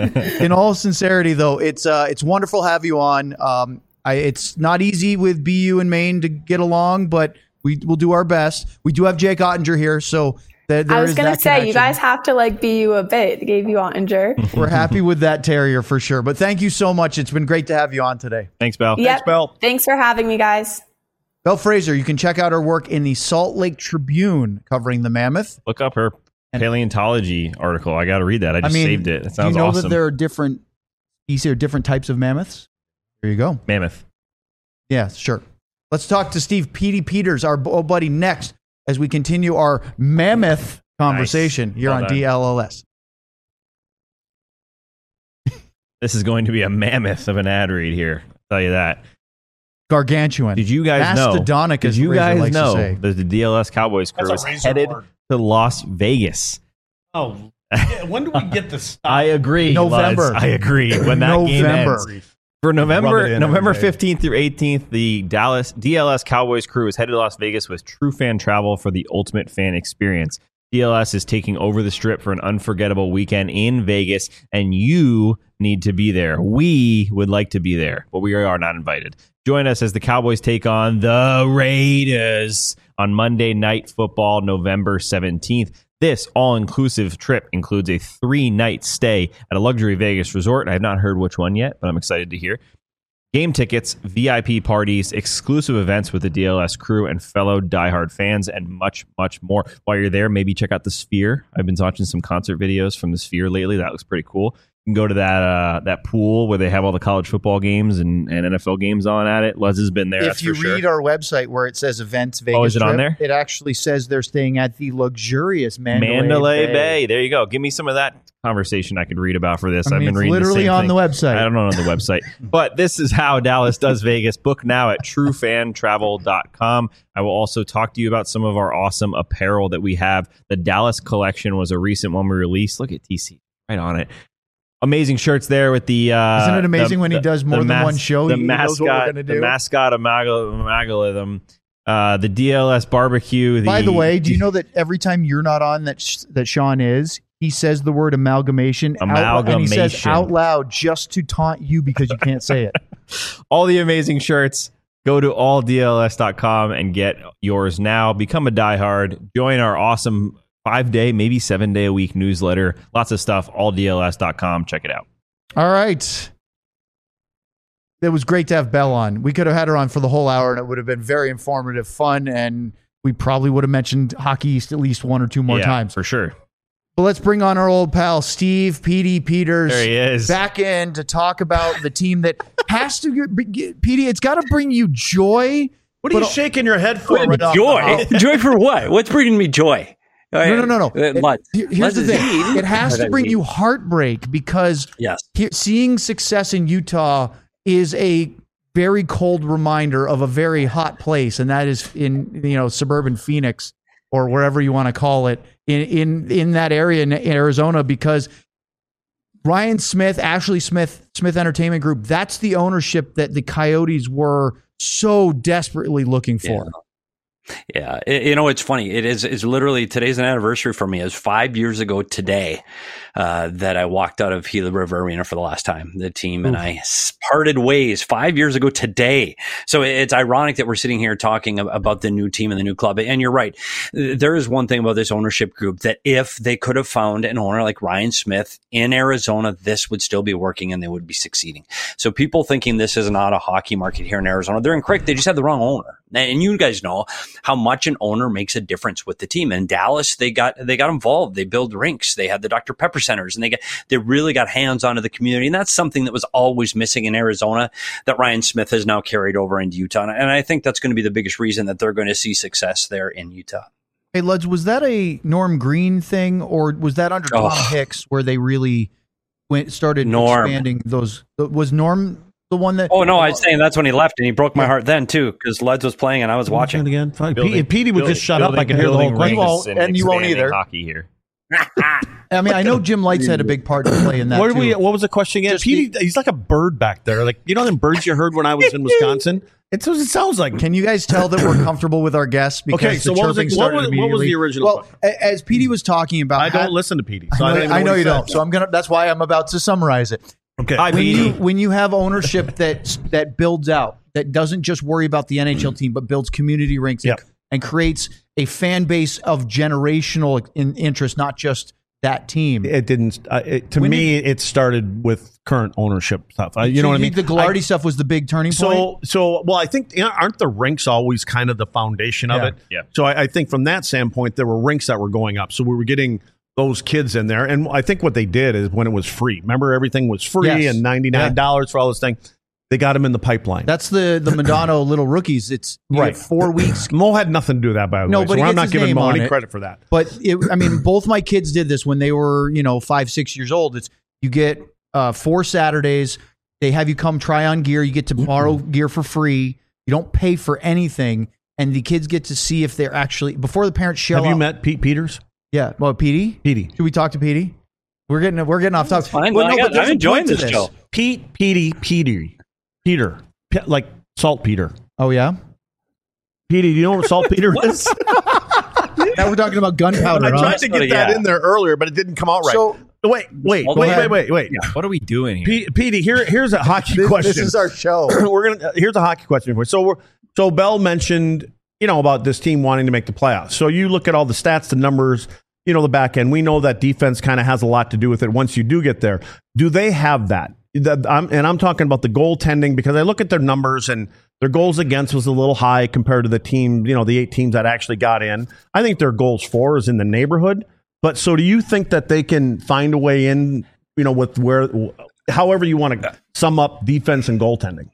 In all sincerity, though, it's uh, it's wonderful to have you on. Um, I, it's not easy with B U and Maine to get along, but we will do our best. We do have Jake Ottinger here, so there, there I was is going to that say, connection. you guys have to like be you a bit. They gave you Ottinger. We're happy with that terrier for sure. But thank you so much. It's been great to have you on today. Thanks, Bell. Yep. Thanks, Bell. Thanks for having me, guys. Belle Fraser, you can check out her work in the Salt Lake Tribune covering the Mammoth. Look up her paleontology article. I got to read that. I I just mean, saved it. It sounds do you know awesome. that there are different, you see, there are different types of mammoths? There you go. Mammoth. Yeah, sure. Let's talk to Steve Petey Peters, our old buddy, next as we continue our Mammoth conversation Nice. here Well on done. D L L S. This is going to be a mammoth of an ad read here. I'll tell you that. Gargantuan. Did you guys know? Mastodonic, Did as you Fraser guys likes to know say. that the D L S Cowboys crew That's is a razor headed word. to Las Vegas? Oh, yeah, when do we get this stuff? I agree. November. Lutz. I agree. When that game November. ends. For Rub it November in November every day. fifteenth through eighteenth, the Dallas D L S Cowboys crew is headed to Las Vegas with True Fan Travel for the ultimate fan experience. D L S is taking over the Strip for an unforgettable weekend in Vegas, and you need to be there. We would like to be there, but we are not invited. Join us as the Cowboys take on the Raiders on Monday Night Football, November seventeenth. This all-inclusive trip includes a three-night stay at a luxury Vegas resort. I have not heard which one yet, but I'm excited to hear. Game tickets, V I P parties, exclusive events with the D L S crew and fellow diehard fans, and much, much more. While you're there, maybe check out the Sphere. I've been watching some concert videos from the Sphere lately. That looks pretty cool. You can go to that uh, that pool where they have all the college football games and, and N F L games on at it. Luz has been there. If that's you for sure. read our website where it says events Vegas Oh, is it on trip, there? it actually says they're staying at the luxurious Mandalay, Mandalay Bay. Bay. There you go. Give me some of that conversation I could read about for this. I I've mean, been it's reading literally the same on thing. the website. I don't know on the website. But this is how Dallas does Vegas. Book now at true fan travel dot com. I will also talk to you about some of our awesome apparel that we have. The Dallas collection was a recent one we released. Look at T C right on it. Amazing shirts there with the. Uh, Isn't it amazing the- when he the- does more the than mas- one show? The He knows what we're mascot, gonna the do. mascot of Magalism, uh, the D L S barbecue. The, By the way, do you know that every time you're not on, that sh- that Sean is, he says the word amalgamation, out, and he says Amalgamation. out loud just to taunt you because you can't say it. all the amazing shirts? Go to all D L S dot com and get yours now. Become a diehard. Join our awesome five day, maybe seven day a week newsletter. Lots of stuff. all D L S dot com. Check it out. All right. It was great to have Belle on. We could have had her on for the whole hour, and it would have been very informative, fun, and we probably would have mentioned Hockey East at least one or two more Yeah, times. for sure. Well, let's bring on our old pal, Steve Petey Peters. There he is. Back in to talk about the team that has to get, Petey, it's got to bring you joy. What are you shaking your head for? Right joy? Joy for what? What's bringing me joy? No, no, no, no. Uh, it, here's Let's the thing. It has to bring you heartbreak because yes. he, seeing success in Utah is a very cold reminder of a very hot place, and that is in you know suburban Phoenix or wherever you want to call it in in in that area in Arizona. Because Ryan Smith, Ashley Smith, Smith Entertainment Group, that's the ownership that the Coyotes were so desperately looking for. Yeah. Yeah, it, you know, it's funny. It is it's literally today's an anniversary for me. It was five years ago today uh, that I walked out of Gila River Arena for the last time. The team and Oof. I parted ways five years ago today. So it's ironic that we're sitting here talking about the new team and the new club. And you're right. There is one thing about this ownership group that if they could have found an owner like Ryan Smith in Arizona, this would still be working and they would be succeeding. So people thinking this is not a hockey market here in Arizona, they're incorrect. They just have the wrong owner. And you guys know how much an owner makes a difference with the team. In Dallas, they got they got involved. They build rinks. They had the Doctor Pepper centers, and they got they really got hands onto the community. And that's something that was always missing in Arizona that Ryan Smith has now carried over into Utah. And I think that's going to be the biggest reason that they're going to see success there in Utah. Hey, Luds, was that a Norm Green thing, or was that under Tom oh. Hicks where they really went started Norm. expanding those? Was Norm the one that? Oh no, I was saying that's when he left, and he broke my heart then too, because Luds was playing and I was watching again. Fine. Building, P- Petey would building, just shut building, up. I can hear the whole question, and, and you won't either. Hockey here. I mean, I know Jim Lights had a big part to play in that. What, too. We, what was the question again? Petey, the, he's like a bird back there. Like you know them birds you heard when I was in Wisconsin. It's what it sounds like. Can you guys tell that we're comfortable with our guests? Because okay, so the what was, it, what, was, what was the original? Well, question? as Petey was talking about, I don't had, listen to Petey. So I know, I, I know you said. don't. So I'm gonna. That's why I'm about to summarize it. Okay. Hi, when you when you have ownership that that builds out, that doesn't just worry about the N H L team, but builds community rinks yep. and, and creates a fan base of generational in, interest, not just that team. It didn't. Uh, it, to when me, you, it started with current ownership stuff. Uh, you so know you what I mean? The Ghilardi stuff was the big turning so, point. So, well, I think you know, aren't the rinks always kind of the foundation of yeah. it? Yeah. So I, I think from that standpoint, there were rinks that were going up. So we were getting those kids in there, and I think what they did is when it was free. Remember, everything was free yes. and ninety nine dollars yeah. for all this thing. They got them in the pipeline. That's the the Madonna little rookies. It's right. four weeks. Mo had nothing to do with that, by the no, way. But so I'm not giving Mo any it. credit for that. But it, I mean, both my kids did this when they were, you know, five, six years old. It's you get uh, four Saturdays. They have you come try on gear. You get to borrow gear for free. You don't pay for anything, and the kids get to see if they're actually before the parents shell. Have you out, met Pete Peters? Yeah. Well, Petey. Petey. Should we talk to Petey? We're getting we're getting off topic. Fine. Well, no, no, got, I'm enjoying this, this show. Pete, Petey, Petey, Peter. P- like saltpeter. Oh yeah, Petey, do you know what saltpeter is? Now we're talking about gunpowder. I tried huh? to get yeah. that in there earlier, but it didn't come out right. So wait, wait, Go wait, ahead. wait, wait, wait. What are we doing here? P- Petey, here, here's a hockey this, question. This is our show. we're gonna. Here's a hockey question for you. So we're so Bell mentioned, you know, about this team wanting to make the playoffs. So you look at all the stats, the numbers. You know, the back end. We know that defense kind of has a lot to do with it once you do get there. Do they have that? I'm, and I'm talking about the goaltending because I look at their numbers and their goals against was a little high compared to the team, you know, the eight teams that actually got in. I think their goals for is in the neighborhood. But so do you think that they can find a way in, you know, with where, however you want to sum up defense and goaltending?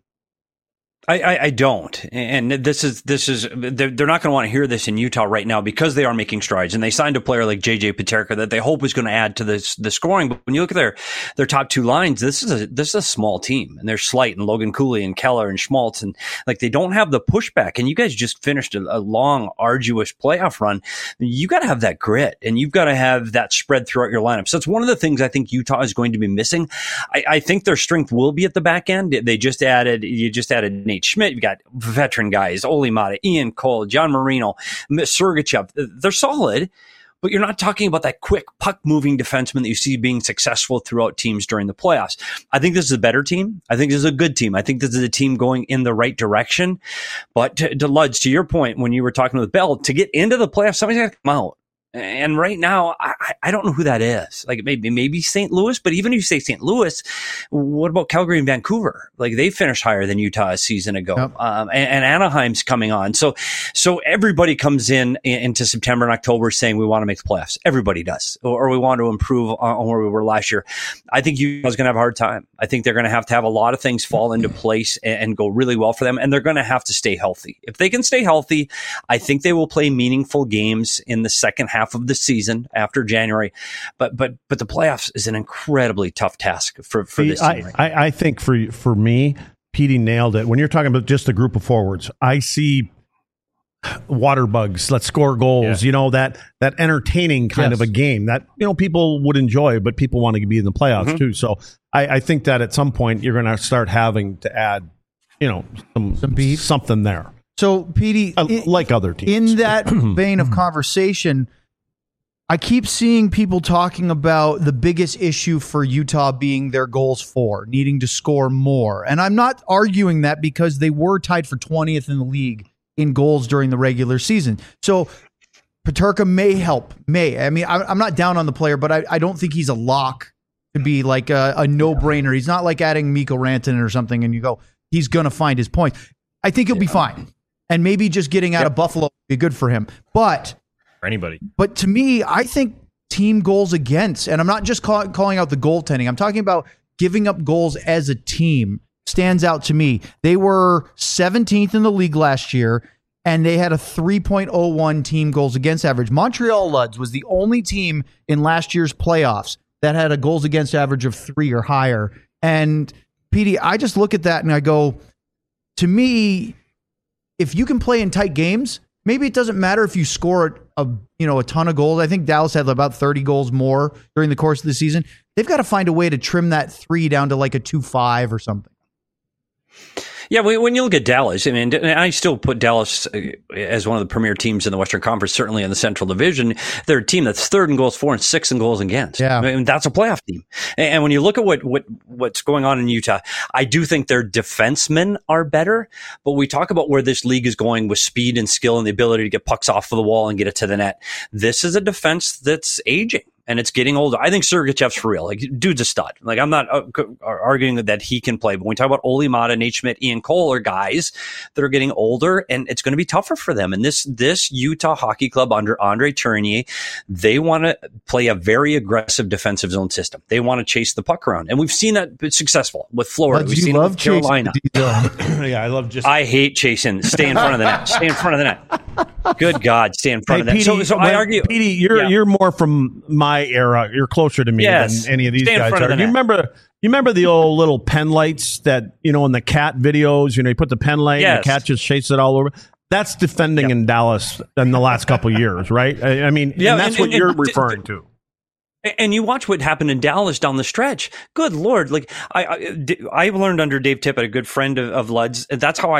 I, I, I don't, and this is this is they're, they're not going to want to hear this in Utah right now because they are making strides, and they signed a player like J J Peterka that they hope is going to add to this the scoring. But when you look at their their top two lines, this is a this is a small team, and there's Slight and Logan Cooley and Keller and Schmaltz, and like they don't have the pushback. And you guys just finished a, a long, arduous playoff run. You got to have that grit, and you've got to have that spread throughout your lineup. So it's one of the things I think Utah is going to be missing. I, I think their strength will be at the back end. They just added you just added Nate Schmidt. You've got veteran guys, Oli Mata, Ian Cole, John Marino, Sergachev. They're solid, but you're not talking about that quick puck-moving defenseman that you see being successful throughout teams during the playoffs. I think this is a better team. I think this is a good team. I think this is a team going in the right direction. But to, to Luds, to your point, when you were talking with Bell, to get into the playoffs, somebody's got to come out. And right now, I, I don't know who that is. Like maybe maybe Saint Louis, but even if you say Saint Louis, what about Calgary and Vancouver? Like they finished higher than Utah a season ago, yep. um, and, and Anaheim's coming on. So so everybody comes in into September and October saying we want to make the playoffs. Everybody does, or, or we want to improve on where we were last year. I think Utah's going to have a hard time. I think they're going to have to have a lot of things fall into place and, and go really well for them, and they're going to have to stay healthy. If they can stay healthy, I think they will play meaningful games in the second half of the season after January, but but but the playoffs is an incredibly tough task for, for this team. I, right I, I think for for me, Petey nailed it. When you're talking about just a group of forwards, I see water bugs. Let's score goals. Yeah. You know, that that entertaining kind yes. of a game that you know people would enjoy, but people want to be in the playoffs mm-hmm. too. So I, I think that at some point you're going to start having to add, you know, some, some beef, something there. So Petey, uh, like other teams, in that vein of conversation, I keep seeing people talking about the biggest issue for Utah being their goals for, needing to score more. And I'm not arguing that because they were tied for twentieth in the league in goals during the regular season. So Peterka may help, may. I mean, I'm not down on the player, but I, I don't think he's a lock to be like a, a no-brainer. He's not like adding Mikko Rantanen or something and you go, he's going to find his points. I think he'll be fine. And maybe just getting out yep. of Buffalo would be good for him. But anybody. But to me, I think team goals against, and I'm not just call, calling out the goaltending, I'm talking about giving up goals as a team stands out to me. They were seventeenth in the league last year, and they had a three point oh one team goals against average. Montreal Luds was the only team in last year's playoffs that had a goals against average of three or higher. And Petey, I just look at that and I go, to me, if you can play in tight games, maybe it doesn't matter if you score a you know a ton of goals. I think Dallas had about thirty goals more during the course of the season. They've got to find a way to trim that three down to like a two five or something. Yeah, when you look at Dallas, I mean, I still put Dallas as one of the premier teams in the Western Conference, certainly in the Central Division. They're a team that's third in goals for and sixth in goals against. Yeah. I mean, that's a playoff team. And when you look at what, what what's going on in Utah, I do think their defensemen are better, but we talk about where this league is going with speed and skill and the ability to get pucks off of the wall and get it to the net. This is a defense that's aging. And it's getting older. I think Sergachev's for real. Like, dude's a stud. Like, I'm not uh, arguing that he can play, but when we talk about Olli Maatta, Nate Schmidt, Ian Cole are guys that are getting older, and it's going to be tougher for them. And this this Utah Hockey Club under Andre Tourigny, they want to play a very aggressive defensive zone system. They want to chase the puck around, and we've seen that be successful with Florida. But We've you seen love it with Carolina. Yeah, I love just. I hate chasing. Stay in front of the net. Stay in front of the net. Good God, stay in front hey, of that. Petey, So, so I argue, Petey, you're yeah. you're more from my era. You're closer to me yes. than any of these Stay guys are. The you remember? You remember the old little pen lights that you know in the cat videos? You know, you put the pen light, yes. and the cat just chases it all over. That's defending yep. in Dallas in the last couple of years, right? I, I mean, yeah, and that's and, what and, you're and, referring d- to. And you watch what happened in Dallas down the stretch. Good Lord. Like I, I, I learned under Dave Tippett, a good friend of, of Lud's. That's how I,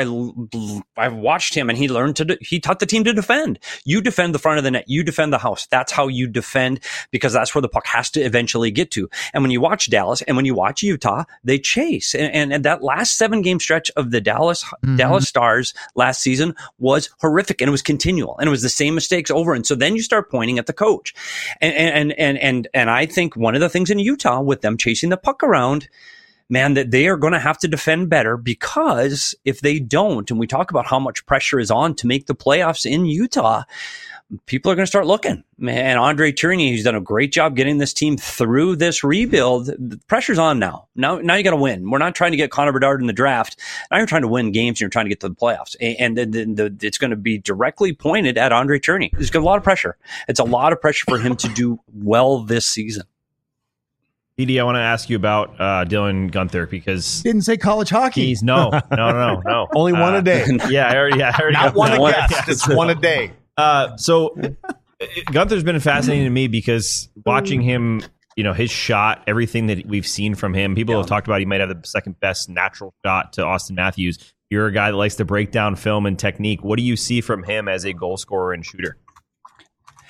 I watched him and he learned to, he taught the team to defend. You defend the front of the net. You defend the house. That's how you defend because that's where the puck has to eventually get to. And when you watch Dallas and when you watch Utah, they chase. And, and, and that last seven game stretch of the Dallas, mm-hmm. Dallas Stars last season was horrific and it was continual and it was the same mistakes over. And so then you start pointing at the coach and, and, and, and, And I think one of the things in Utah with them chasing the puck around, man, that they are going to have to defend better because if they don't, and we talk about how much pressure is on to make the playoffs in Utah, people are going to start looking. Man, Andre Tourigny, who's done a great job getting this team through this rebuild. The pressure's on now. Now, now you got to win. We're not trying to get Connor Bedard in the draft. Now you're trying to win games and you're trying to get to the playoffs. And, and the, the, the, it's going to be directly pointed at Andre Tourigny. There's a lot of pressure. It's a lot of pressure for him to do well this season. Edie, I want to ask you about uh, Dylan Guenther because didn't say college hockey. He's no, no, no, no. Only one uh, a day. Yeah, I already. Yeah, I already Not got one that. a guest. It's one a day. Uh, so Gunther's been fascinating to me because watching him, you know, his shot, everything that we've seen from him, people yeah. have talked about he might have the second best natural shot to Austin Matthews. You're a guy that likes to break down film and technique. What do you see from him as a goal scorer and shooter?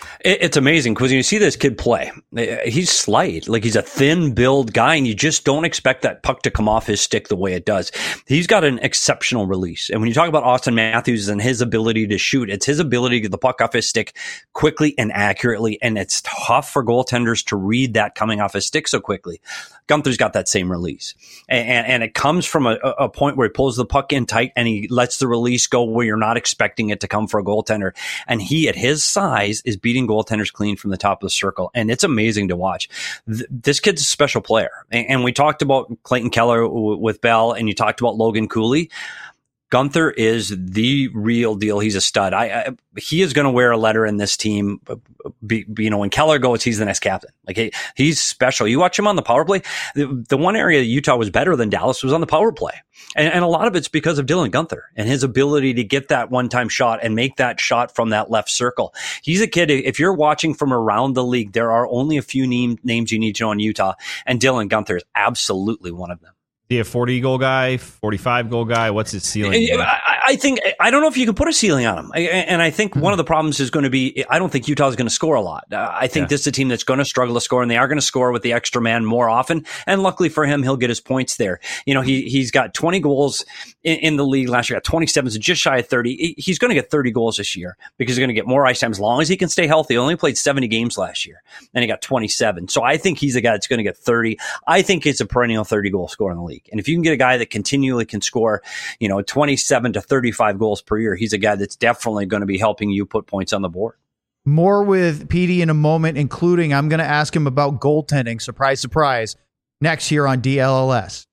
It's amazing because when you see this kid play, he's slight, like he's a thin build guy, and you just don't expect that puck to come off his stick the way it does. He's got an exceptional release. And when you talk about Austin Matthews and his ability to shoot, it's his ability to get the puck off his stick quickly and accurately. And it's tough for goaltenders to read that coming off his stick so quickly. Gunther's got that same release. And, and, and it comes from a, a point where he pulls the puck in tight and he lets the release go where you're not expecting it to come for a goaltender. And he, at his size, is beating goaltenders clean from the top of the circle. And it's amazing to watch. Th- this kid's a special player. And, and we talked about Clayton Keller w- with Bell, and you talked about Logan Cooley. Gunther is the real deal. He's a stud. I, I he is going to wear a letter in this team. Be, be, you know, when Keller goes, he's the next captain. Like he, he's special. You watch him on the power play. The, the one area Utah was better than Dallas was on the power play, and, and a lot of it's because of Dylan Gunther and his ability to get that one-time shot and make that shot from that left circle. He's a kid. If you're watching from around the league, there are only a few name, names you need to know in Utah, and Dylan Gunther is absolutely one of them. Be a forty goal guy, forty-five goal guy. What's his ceiling? I, I think I don't know if you can put a ceiling on him, I, and I think mm-hmm. one of the problems is going to be I don't think Utah is going to score a lot. Uh, I think yeah. this is a team that's going to struggle to score, and they are going to score with the extra man more often. And luckily for him, he'll get his points there. You know, he he's got twenty goals in, in the league last year. Got twenty-seven, so just shy of thirty. He's going to get thirty goals this year because he's going to get more ice time as long as he can stay healthy. He only played seventy games last year, and he got twenty-seven. So I think he's a guy that's going to get thirty. I think it's a perennial thirty goal scorer in the league, and if you can get a guy that continually can score, you know, twenty-seven to thirty-five goals per year, he's a guy that's definitely going to be helping you put points on the board. More with Petey in a moment, including I'm going to ask him about goaltending. Surprise, surprise. Next here on D L L S.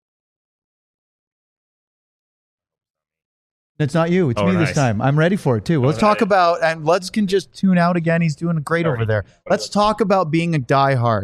It's not you. It's oh, me nice. this time. I'm ready for it too. Oh, Let's talk nice. about, and Luds can just tune out again. He's doing great Sorry. over there. Let's talk about being a diehard.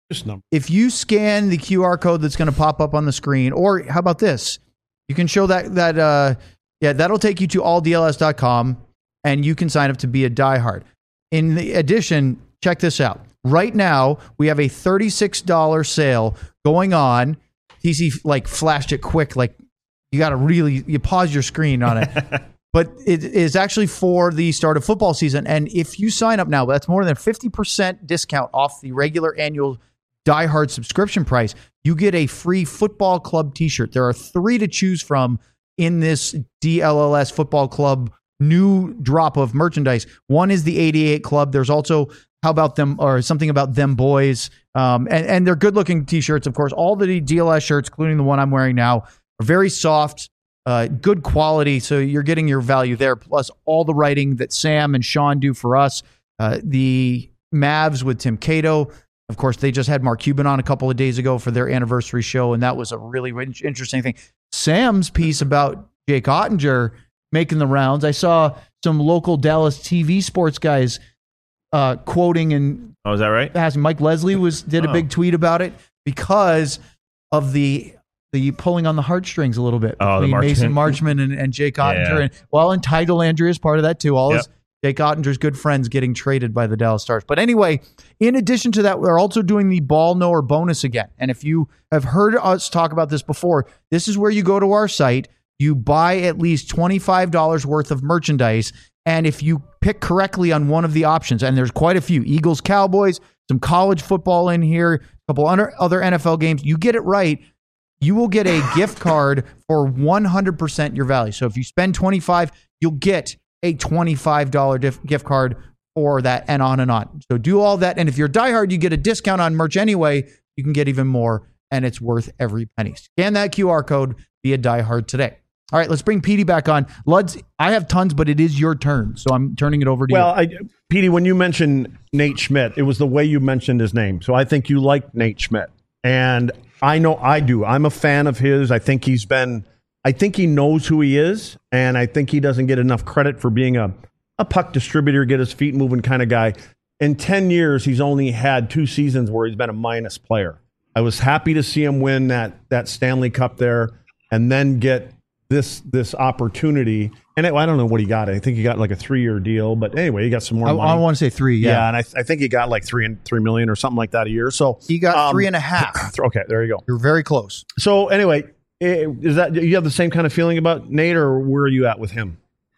If you scan the Q R code that's going to pop up on the screen, or how about this? You can show that, that uh, yeah, that'll take you to all D L S dot com, and you can sign up to be a diehard. In the addition, check this out. Right now, we have a thirty-six dollars sale going on. T C like flashed it quick, like you got to really, you pause your screen on it. But it is actually for the start of football season. And if you sign up now, that's more than fifty percent discount off the regular annual Die Hard subscription price. You get a free football club t-shirt. There are three to choose from in this D L L S football club new drop of merchandise. One is the eighty-eight Club. There's also how about them, or something about them boys. Um, and, and they're good looking t-shirts, of course. All the D L S shirts, including the one I'm wearing now, are very soft, uh, good quality. So you're getting your value there. Plus all the writing that Sam and Sean do for us. Uh, the Mavs with Tim Cato. Of course, they just had Mark Cuban on a couple of days ago for their anniversary show, and that was a really interesting thing. Sam's piece about Jake Ottinger making the rounds. I saw some local Dallas T V sports guys uh, quoting and oh, is that right? Asking. Mike Leslie was did oh. a big tweet about it because of the the pulling on the heartstrings a little bit oh, between the Mason Marchman and, and Jake Ottinger. Yeah. And well, and Ty Dellandrea is part of that too. All yep. his Jake Ottinger's good friends getting traded by the Dallas Stars. But anyway, in addition to that, we're also doing the Ball Knower bonus again. And if you have heard us talk about this before, this is where you go to our site, you buy at least twenty-five dollars worth of merchandise, and if you pick correctly on one of the options, and there's quite a few, Eagles, Cowboys, some college football in here, a couple other N F L games, you get it right, you will get a gift card for one hundred percent your value. So if you spend twenty-five dollars, you'll get a twenty-five dollars dif- gift card for that, and on and on. So do all that. And if you're diehard, you get a discount on merch anyway. You can get even more, and it's worth every penny. Scan that Q R code, be a diehard today. All right, let's bring Petey back on. Luds, I have tons, but it is your turn, so I'm turning it over to well, you. Well, Petey, when you mentioned Nate Schmidt, it was the way you mentioned his name. So I think you like Nate Schmidt. And I know I do. I'm a fan of his. I think he's been... I think he knows who he is, and I think he doesn't get enough credit for being a, a puck distributor, get his feet moving kind of guy. In ten years, he's only had two seasons where he's been a minus player. I was happy to see him win that that Stanley Cup there and then get this this opportunity. And it, I don't know what he got. I think he got like a three-year deal, but anyway, he got some more I, money. I want to say three, yeah. Yeah, and I, I think he got like three and three million or something like that a year. So he got um, three and a half. Okay, there you go. You're very close. So anyway, is that you have the same kind of feeling about Nate, or where are you at with him?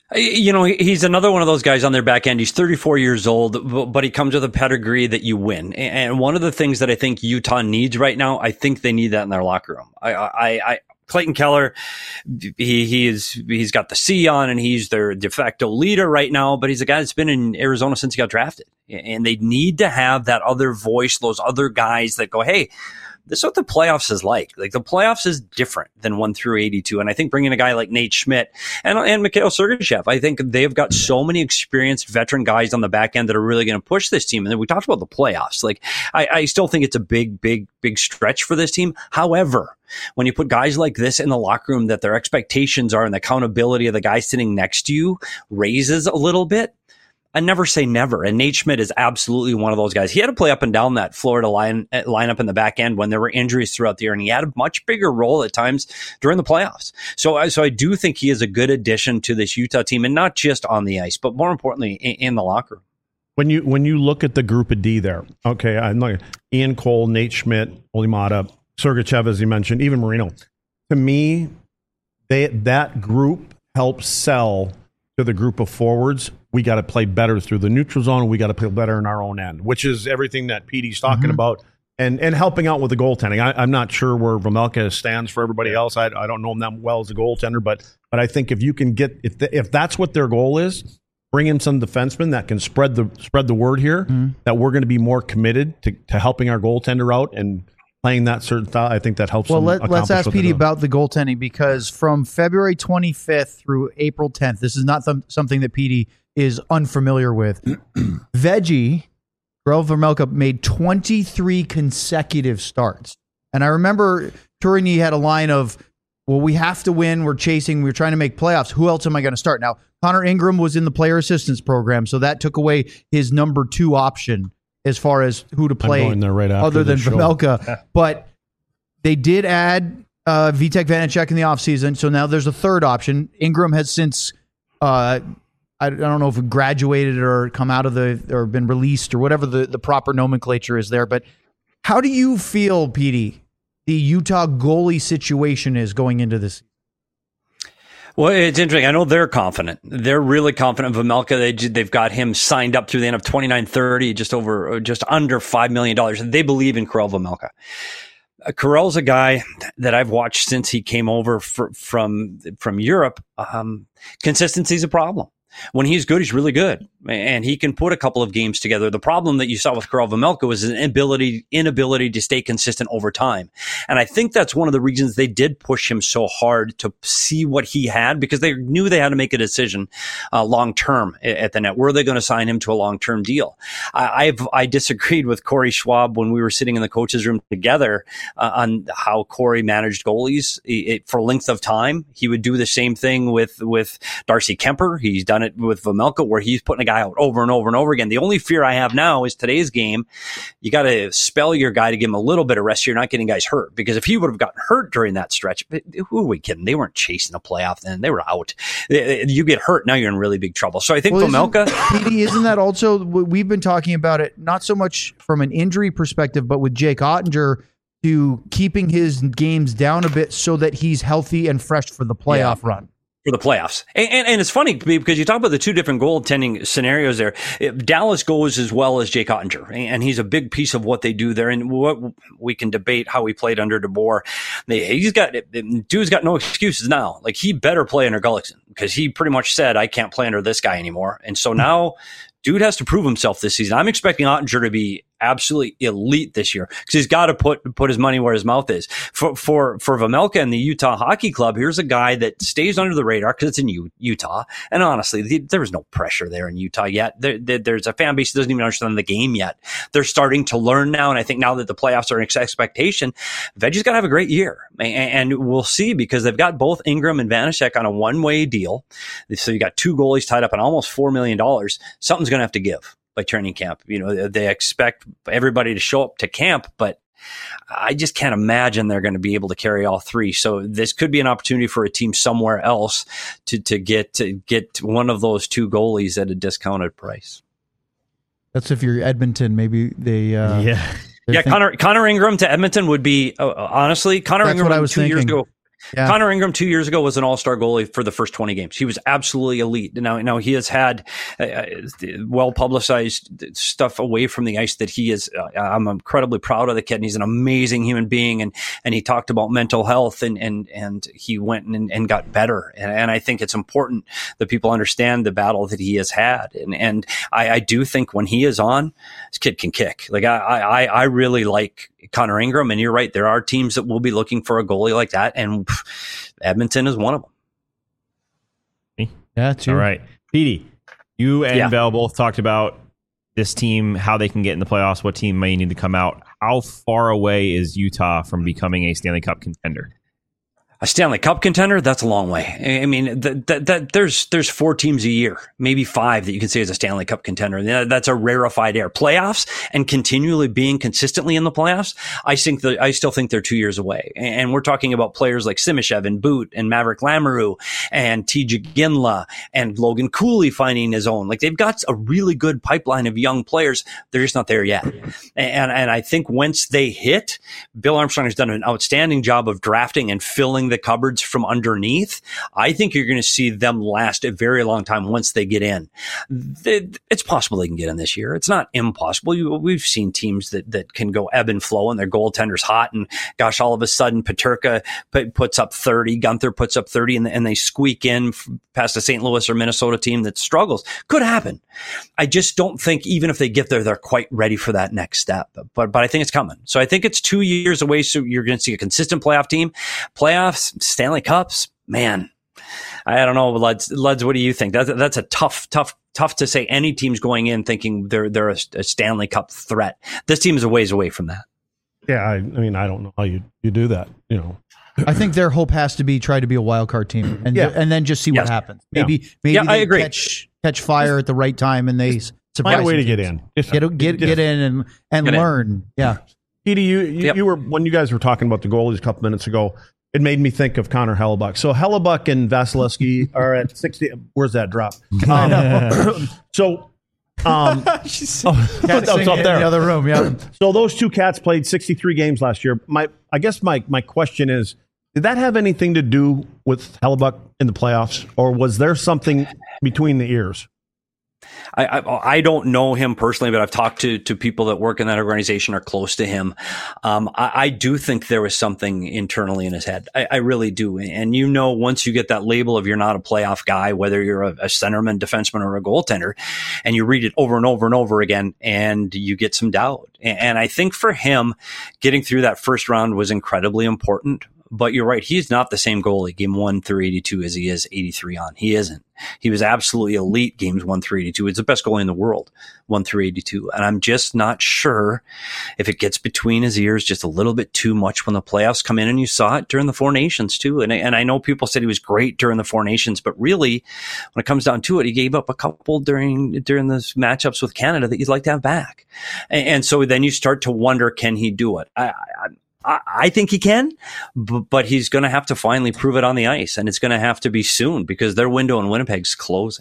You know, he's another one of those guys on their back end. He's thirty-four years old, but he comes with a pedigree that you win. And one of the things that I think Utah needs right now, I think they need that in their locker room. I, I, I Clayton Keller, he he is he's got the C on, and he's their de facto leader right now. But he's a guy that's been in Arizona since he got drafted, and they need to have that other voice, those other guys that go, hey, this is what the playoffs is like. Like the playoffs is different than one through eighty-two. And I think bringing a guy like Nate Schmidt and, and Mikhail Sergachev, I think they've got so many experienced veteran guys on the back end that are really going to push this team. And then we talked about the playoffs. Like I, I still think it's a big, big, big stretch for this team. However, when you put guys like this in the locker room, that their expectations are and the accountability of the guy sitting next to you raises a little bit, I never say never. And Nate Schmidt is absolutely one of those guys. He had to play up and down that Florida line lineup in the back end when there were injuries throughout the year, and he had a much bigger role at times during the playoffs. So, so I do think he is a good addition to this Utah team, and not just on the ice, but more importantly, in, in the locker room. When you when you look at the group of D there, okay, I'm like Ian Cole, Nate Schmidt, Olimata, Sergachev, as you mentioned, even Marino. To me, they that group helps sell to the group of forwards. We got to play better through the neutral zone. We got to play better in our own end, which is everything that Petey's talking mm-hmm. about, and and helping out with the goaltending. I, I'm not sure where Vejmelka stands for everybody else. I, I don't know him that well as a goaltender, but but I think if you can get if the, if that's what their goal is, bring in some defensemen that can spread the spread the word here mm-hmm. that we're going to be more committed to, to helping our goaltender out and playing that certain style. I think that helps. Well, let, let's ask Petey about the goaltending, because from February twenty-fifth through April tenth, this is not th- something that Petey is unfamiliar with. Veggie, Karel Vejmelka, made twenty-three consecutive starts. And I remember Tourigny had a line of, well, we have to win. We're chasing. We're trying to make playoffs. Who else am I going to start? Now, Connor Ingram was in the player assistance program, so that took away his number two option as far as who to play right other than Vejmelka. But they did add uh, Vitek Vanacek in the offseason, so now there's a third option. Ingram has since, uh, I don't know if it graduated or come out of the, or been released or whatever the, the proper nomenclature is there. But how do you feel, Petey, the Utah goalie situation is going into this? Well, it's interesting. I know they're confident. They're really confident. Vejmelka, they, they've got him signed up through the end of twenty-nine thirty, just over, just under five million dollars. They believe in Karel Vejmelka. Uh, Karel's a guy that I've watched since he came over for, from, from Europe. Um, consistency is a problem. When he's good, he's really good, and he can put a couple of games together. The problem that you saw with Karel Vejmelka was an inability, inability to stay consistent over time. And I think that's one of the reasons they did push him so hard to see what he had, because they knew they had to make a decision uh, long term at the net. Were they going to sign him to a long term deal? I, I've I disagreed with Corey Schwab when we were sitting in the coaches' room together uh, on how Corey managed goalies it, it, for length of time. He would do the same thing with with Darcy Kemper. He's done it with Vejmelka, where he's putting a guy out over and over and over again. The only fear I have now is today's game. You got to spell your guy to give him a little bit of rest so you're not getting guys hurt. Because if he would have gotten hurt during that stretch, who are we kidding? They weren't chasing a playoff then. They were out. You get hurt, now you're in really big trouble. So I think well, Vejmelka... Isn't, Petey, isn't that also, we've been talking about it, not so much from an injury perspective, but with Jake Ottinger, to keeping his games down a bit so that he's healthy and fresh for the playoff yeah. run. For the playoffs. And, and, and it's funny because you talk about the two different goaltending scenarios there. It, Dallas goes as well as Jake Ottinger, and he's a big piece of what they do there. And what we can debate how he played under DeBoer. He's got, dude's got no excuses now. Like, he better play under Gullickson, because he pretty much said, I can't play under this guy anymore. And so now dude has to prove himself this season. I'm expecting Ottinger to be absolutely elite this year, because he's got to put put his money where his mouth is. For for for Vejmelka and the Utah Hockey Club, here's a guy that stays under the radar because it's in U- Utah. And honestly, the, there was no pressure there in Utah yet. There, there, there's a fan base that doesn't even understand the game yet. They're starting to learn now, and I think now that the playoffs are an expectation, Veggie's got to have a great year. And, and we'll see, because they've got both Ingram and Vanacek on a one-way deal. So you got two goalies tied up on almost four million dollars. Something's going to have to give by training camp. You know, they expect everybody to show up to camp, but I just can't imagine they're going to be able to carry all three. So this could be an opportunity for a team somewhere else to, to get, to get one of those two goalies at a discounted price. That's if you're Edmonton, maybe they, uh, yeah. Yeah, Connor, Connor Ingram to Edmonton would be, uh, honestly, Connor That's Ingram what I was two thinking. years ago. Yeah. Connor Ingram two years ago was an all-star goalie for the first twenty games. He was absolutely elite. Now, now he has had uh, well-publicized stuff away from the ice that he is. Uh, I'm incredibly proud of the kid, and he's an amazing human being. And and he talked about mental health, and and and he went and, and got better. And, and I think it's important that people understand the battle that he has had. And and I, I do think when he is on, this kid can kick. Like I I, I really like Connor Ingram, and you're right. There are teams that will be looking for a goalie like that, and pff, Edmonton is one of them. Yeah, too. All right. Petey, you and Yeah. Bell both talked about this team, how they can get in the playoffs, what team may need to come out. How far away is Utah from becoming a Stanley Cup contender? A Stanley Cup contender? That's a long way. I mean, that, that, that, there's there's four teams a year, maybe five that you can say is a Stanley Cup contender. That's a rarefied air. Playoffs and continually being consistently in the playoffs, I think that I still think they're two years away. And we're talking about players like Simishev and Boot and Maverick Lamoureux and T J Ginla and Logan Cooley finding his own. Like they've got a really good pipeline of young players. They're just not there yet. And and I think once they hit, Bill Armstrong has done an outstanding job of drafting and filling the cupboards from underneath. I think you're going to see them last a very long time once they get in. It's possible they can get in this year. It's not impossible. We've seen teams that, that can go ebb and flow and their goaltender's hot, and gosh, all of a sudden Peterka puts up thirty, Gunther puts up thirty, and, and they squeak in past a Saint Louis or Minnesota team that struggles. Could happen. I just don't think even if they get there, they're quite ready for that next step. But but I think it's coming. So I think it's two years away. So you're going to see a consistent playoff team. Playoffs, Stanley Cups, man. I don't know, Luds. Luds, what do you think? That's that's a tough, tough, tough to say. Any team's going in thinking they're they're a, a Stanley Cup threat. This team is a ways away from that. Yeah, I, I mean, I don't know how you you do that. You know, I think their hope has to be try to be a wild card team, and Yeah. and then just see Yes. what happens. Maybe Yeah. maybe Yeah, they I agree. catch catch fire at the right time, and they s- surprise find a way to some get teams. in. Just- Get get just- get in and and Get in. learn. Yeah. Petey, you you, Yep. you were when you guys were talking about the goalies a couple minutes ago. It made me think of Connor Hellebuck. So Hellebuck and Vasilevsky are at sixty. Where's that drop? Um, so, um, She's oh, Cat's that was singing up in there. the other room. Yeah. So those two cats played sixty-three games last year. My, I guess my my question is, did that have anything to do with Hellebuck in the playoffs, or was there something between the ears? I, I I don't know him personally, but I've talked to to people that work in that organization or close to him. Um, I, I do think there was something internally in his head. I, I really do. And you know, once you get that label of you're not a playoff guy, whether you're a, a centerman, defenseman, or a goaltender, and you read it over and over and over again, and you get some doubt. And, and I think for him, getting through that first round was incredibly important. But you're right. He's not the same goalie game one through eighty-two as he is eighty-three on. He isn't. He was absolutely elite games one through eighty-two. He's the best goalie in the world, one through eighty-two. And I'm just not sure if it gets between his ears just a little bit too much when the playoffs come in. And you saw it during the Four Nations too. And I, and I know people said he was great during the Four Nations, but really when it comes down to it, he gave up a couple during, during the matchups with Canada that you'd like to have back. And, and so then you start to wonder, can he do it? I, I I think he can, but he's going to have to finally prove it on the ice, and it's going to have to be soon because their window in Winnipeg's closing.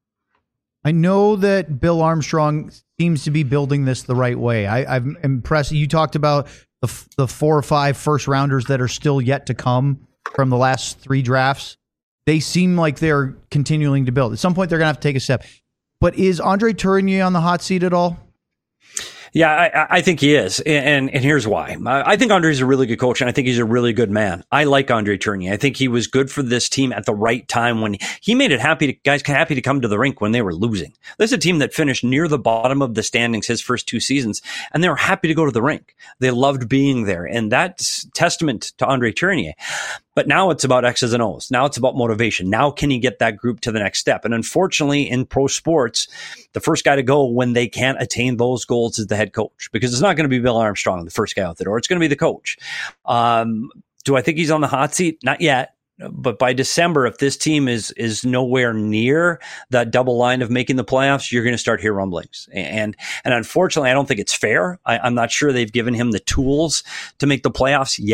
I know that Bill Armstrong seems to be building this the right way. I, I'm impressed. You talked about the, f- the four or five first rounders that are still yet to come from the last three drafts. They seem like they're continuing to build. At some point, they're going to have to take a step. But is Andre Tourigny on the hot seat at all? Yeah, I, I think he is. And, and here's why. I think Andre's a really good coach, and I think he's a really good man. I like Andre Tourigny. I think he was good for this team at the right time when he made it happy to, guys happy to come to the rink when they were losing. This is a team that finished near the bottom of the standings his first two seasons, and they were happy to go to the rink. They loved being there, and that's testament to Andre Tourigny. But now it's about X's and O's. Now it's about motivation. Now can he get that group to the next step? And unfortunately, in pro sports, the first guy to go when they can't attain those goals is the head coach, because it's not going to be Bill Armstrong, the first guy out the door. It's going to be the coach. Um, do I think he's on the hot seat? Not yet. But by December, if this team is is nowhere near that double line of making the playoffs, you're going to start hear rumblings. And and unfortunately, I don't think it's fair. I, I'm not sure they've given him the tools to make the playoffs yet.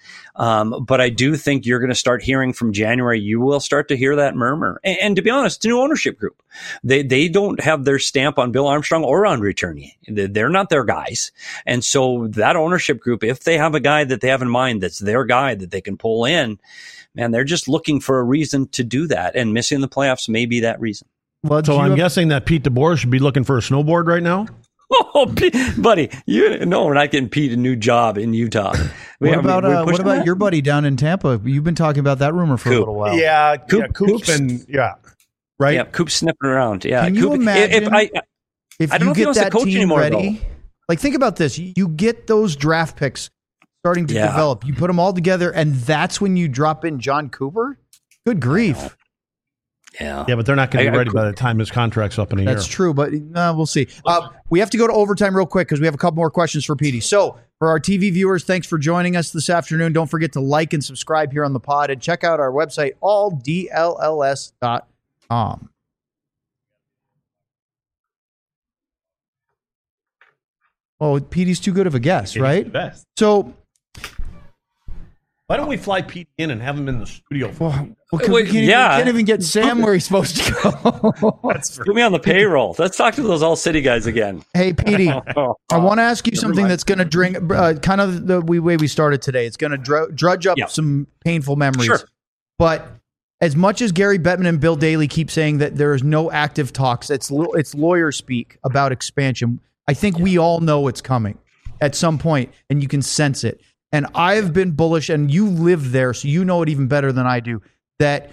Um, but I do think you're going to start hearing from January. You will start to hear that murmur. And, and to be honest, it's a new ownership group. They they don't have their stamp on Bill Armstrong or on Returney. They're not their guys. And so that ownership group, if they have a guy that they have in mind that's their guy that they can pull in, man, they're just looking for a reason to do that. And missing the playoffs may be that reason. Well, so I'm have- guessing that Pete DeBoer should be looking for a snowboard right now? Oh, Pete, buddy, you no, we're not getting Pete a new job in Utah. We, what about uh, what about that? Your buddy down in Tampa? You've been talking about that rumor for Coop. a little while. Yeah, Coop, yeah Coop's been, yeah, right. Yeah, Coop's sniffing around. Yeah, can you Coop, imagine if I, if I don't you know if he get wants that to coach team anymore, ready? though. Like, think about this: you get those draft picks starting to yeah. develop. You put them all together, and that's when you drop in John Cooper. Good grief! Yeah, yeah, but they're not going to be ready I, by the time his contract's up in a that's year. That's true, but uh, we'll see. Uh, we have to go to overtime real quick because we have a couple more questions for Petey. So, for our T V viewers, thanks for joining us this afternoon. Don't forget to like and subscribe here on the pod, and check out our website, all D L L S dot com. Oh, Petey's too good of a guest, right? Best. So, why don't we fly Pete in and have him in the studio? Well, well, Wait, we, can't yeah. even, we can't even get Sam where he's supposed to go. That's Put me on the payroll. Let's talk to those All City guys again. Hey, Petey, I want to ask you something that's going to drink uh, kind of the way we started today. It's going to dr- drudge up yeah. some painful memories. Sure. But as much as Gary Bettman and Bill Daly keep saying that there is no active talks, it's it's lawyer speak about expansion. I think yeah. we all know it's coming at some point, and you can sense it. And I've been bullish, and you live there, so you know it even better than I do, that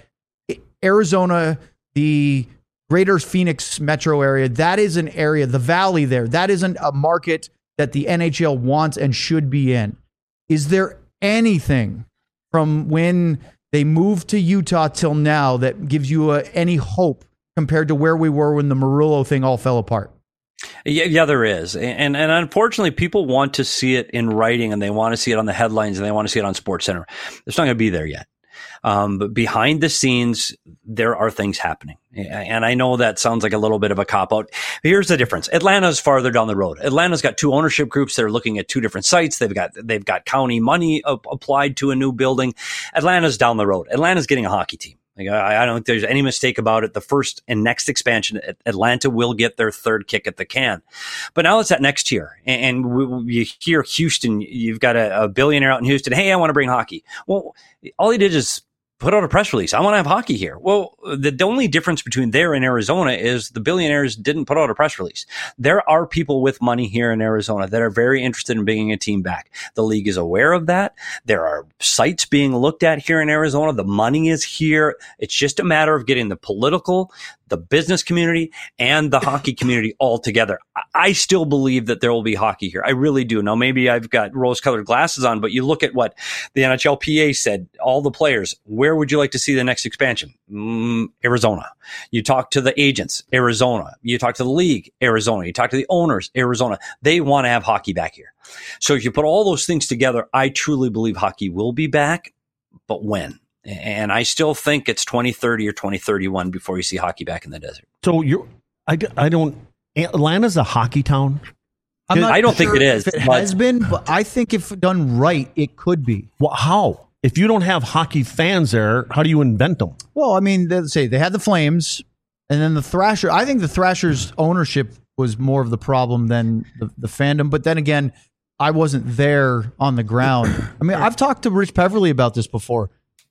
Arizona, the greater Phoenix metro area, that is an area, the valley there, that isn't a market that the N H L wants and should be in. Is there anything from when they moved to Utah till now that gives you a, any hope compared to where we were when the Murillo thing all fell apart? Yeah, yeah, there is. And, and unfortunately, people want to see it in writing, and they want to see it on the headlines, and they want to see it on SportsCenter. It's not going to be there yet. Um, but behind the scenes, there are things happening. And I know that sounds like a little bit of a cop-out. Here's the difference. Atlanta's farther down the road. Atlanta's got two ownership groups that are looking at two different sites. They've got they've got county money up, applied to a new building. Atlanta's down the road. Atlanta's getting a hockey team. Like, I, I don't think there's any mistake about it. The first and next expansion, Atlanta will get their third kick at the can. But now it's that next tier. And, and we, you hear Houston, you've got a, a billionaire out in Houston. Hey, I want to bring hockey. Well, all he did is put out a press release. I want to have hockey here. Well, the, the only difference between there and Arizona is the billionaires didn't put out a press release. There are people with money here in Arizona that are very interested in bringing a team back. The league is aware of that. There are sites being looked at here in Arizona. The money is here. It's just a matter of getting the political, the business community, and the hockey community all together. I still believe that there will be hockey here. I really do. Now, maybe I've got rose-colored glasses on, but you look at what the N H L P A said, all the players, where would you like to see the next expansion? Mm, Arizona. You talk to the agents, Arizona. You talk to the league, Arizona. You talk to the owners, Arizona. They want to have hockey back here. So if you put all those things together, I truly believe hockey will be back, but when? And I still think it's twenty thirty or twenty thirty-one before you see hockey back in the desert. So you're, I, I don't, Atlanta's a hockey town? I'm not I don't sure think it is. If it but, has been, but I think if done right, it could be. Well, how? If you don't have hockey fans there, how do you invent them? Well, I mean, let's say they had the Flames, and then the Thrasher. I think the Thrashers' ownership was more of the problem than the, the fandom. But then again, I wasn't there on the ground. I mean, I've talked to Rich Peverly about this before.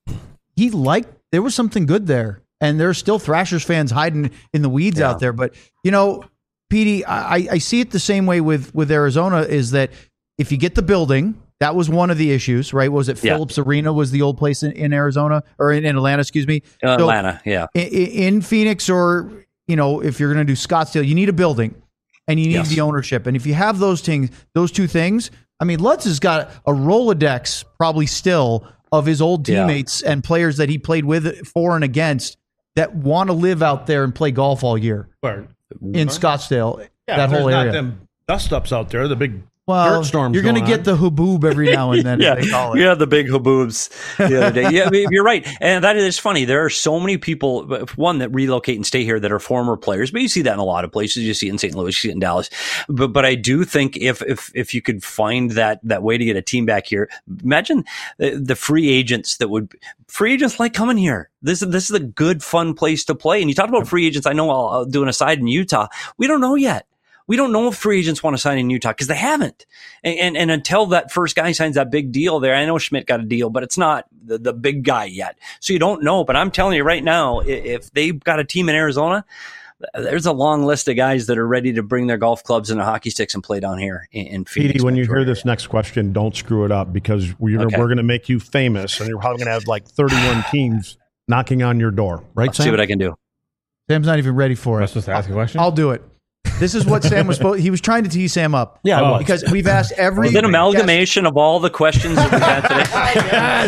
He liked, there was something good there. And there's still Thrashers fans hiding in the weeds yeah. out there. But, you know, Petey, I, I see it the same way with, with Arizona, is that if you get the building, that was one of the issues, right? Was it yeah. Phillips Arena was the old place in, in Arizona or in, in Atlanta, excuse me? Uh, so Atlanta, yeah. In, in Phoenix, or, you know, if you're going to do Scottsdale, you need a building and you need yes. the ownership. And if you have those things, those two things, I mean, Lutz has got a Rolodex probably still of his old teammates yeah. and players that he played with, for and against, that want to live out there and play golf all year Where? in Scottsdale, yeah, that whole area. Not them dust ups out there, the big Well, dirt storms you're going to going get the haboob every now and then, yeah, as they call it. Yeah, the big haboobs the other day. Yeah, I mean, you're right. And that is funny. There are so many people, one, that relocate and stay here that are former players, but you see that in a lot of places. You see it in Saint Louis, you see it in Dallas. But but I do think if if if you could find that that way to get a team back here, imagine the, the free agents that would free agents like coming here. This is this is a good, fun place to play. And you talked about free agents. I know I'll, I'll do an aside in Utah. We don't know yet. We don't know if free agents want to sign in Utah because they haven't. And, and and until that first guy signs that big deal there, I know Schmidt got a deal, but it's not the, the big guy yet. So you don't know. But I'm telling you right now, if they've got a team in Arizona, there's a long list of guys that are ready to bring their golf clubs and their hockey sticks and play down here in, in Phoenix. Petey, when you hear area. this next question, don't screw it up because we're, Okay. we're going to make you famous and you're probably going to have like thirty-one teams knocking on your door. Right, I'll Sam? see what I can do. Sam's not even ready for Am I it. supposed to ask a question? I'll do it. This is what Sam was supposed. He was trying to tease Sam up. Yeah, Oh. well, because we've asked every Is it an amalgamation of all the questions that we've had today?